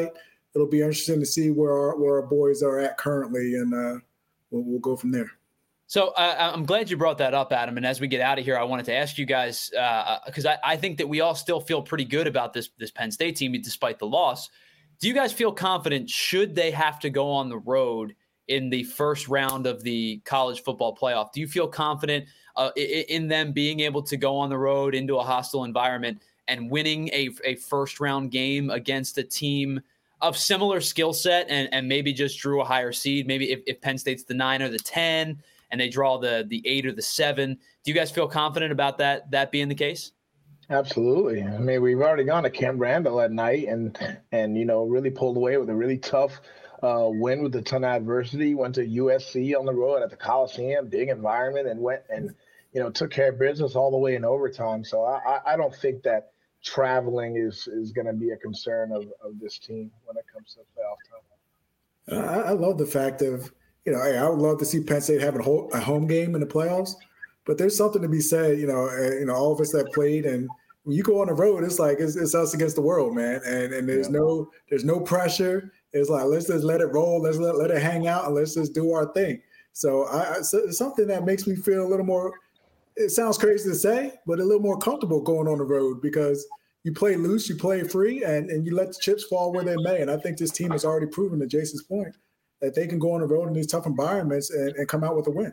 it'll be interesting to see where our, where our boys are at currently, and uh, we'll, we'll go from there. So uh, I'm glad you brought that up, Adam. And as we get out of here, I wanted to ask you guys, because uh, I, I think that we all still feel pretty good about this, this Penn State team despite the loss. Do you guys feel confident should they have to go on the road in the first round of the college football playoff? Do you feel confident uh, in them being able to go on the road into a hostile environment and winning a, a first round game against a team of similar skill set and, and maybe just drew a higher seed? Maybe if, if Penn State's the nine or the ten and they draw the the eight or the seven. Do you guys feel confident about that that being the case? Absolutely. I mean, we've already gone to Camp Randall at night and, and you know, really pulled away with a really tough uh, win with a ton of adversity. Went to U S C on the road at the Coliseum, big environment, and went and, you know, took care of business all the way in overtime. So I, I don't think that traveling is, is going to be a concern of, of this team when it comes to playoff time. I, I love the fact of, you know, hey, I would love to see Penn State have a, whole, a home game in the playoffs, but there's something to be said, you know, uh, you know, all of us that played, and when you go on the road, it's like it's, it's us against the world, man. And and there's yeah. no there's no pressure. It's like let's just let it roll, let's let, let it hang out, and let's just do our thing. So I, so it's something that makes me feel a little more. It sounds crazy to say, but a little more comfortable going on the road because you play loose, you play free, and and you let the chips fall where they may. And I think this team has already proven, to Jason's point, that they can go on the road in these tough environments and, and come out with a win.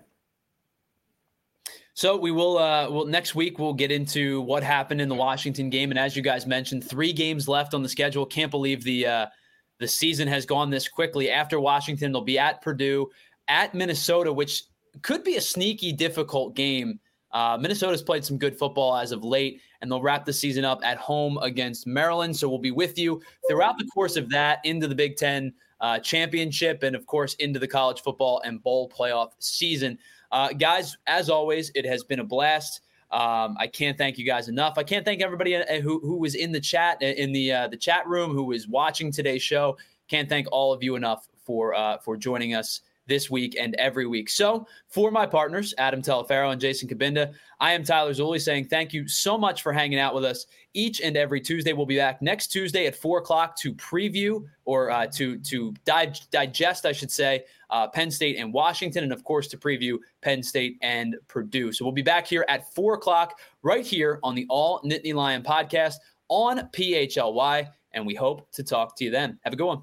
So we will, uh, well, next week we'll get into what happened in the Washington game. And as you guys mentioned, three games left on the schedule. Can't believe the uh, the season has gone this quickly. After Washington, they'll be at Purdue, at Minnesota, which could be a sneaky, difficult game. Uh, Minnesota's played some good football as of late, and they'll wrap the season up at home against Maryland. So we'll be with you throughout the course of that into the Big Ten uh, championship and, of course, into the college football and bowl playoff season. Uh, guys, as always, it has been a blast. Um, I can't thank you guys enough. I can't thank everybody who who was in the chat, in the uh, the chat room, who was watching today's show. Can't thank all of you enough for uh, for joining us this week and every week. So for my partners, Adam Telefaro and Jason Cabinda, I am Tyler Zulli saying thank you so much for hanging out with us each and every Tuesday. We'll be back next Tuesday at four o'clock to preview or uh, to to di- digest, I should say, uh, Penn State and Washington, and of course to preview Penn State and Purdue. So we'll be back here at four o'clock right here on the All Nittany Lion podcast on P H L Y, and we hope to talk to you then. Have a good one.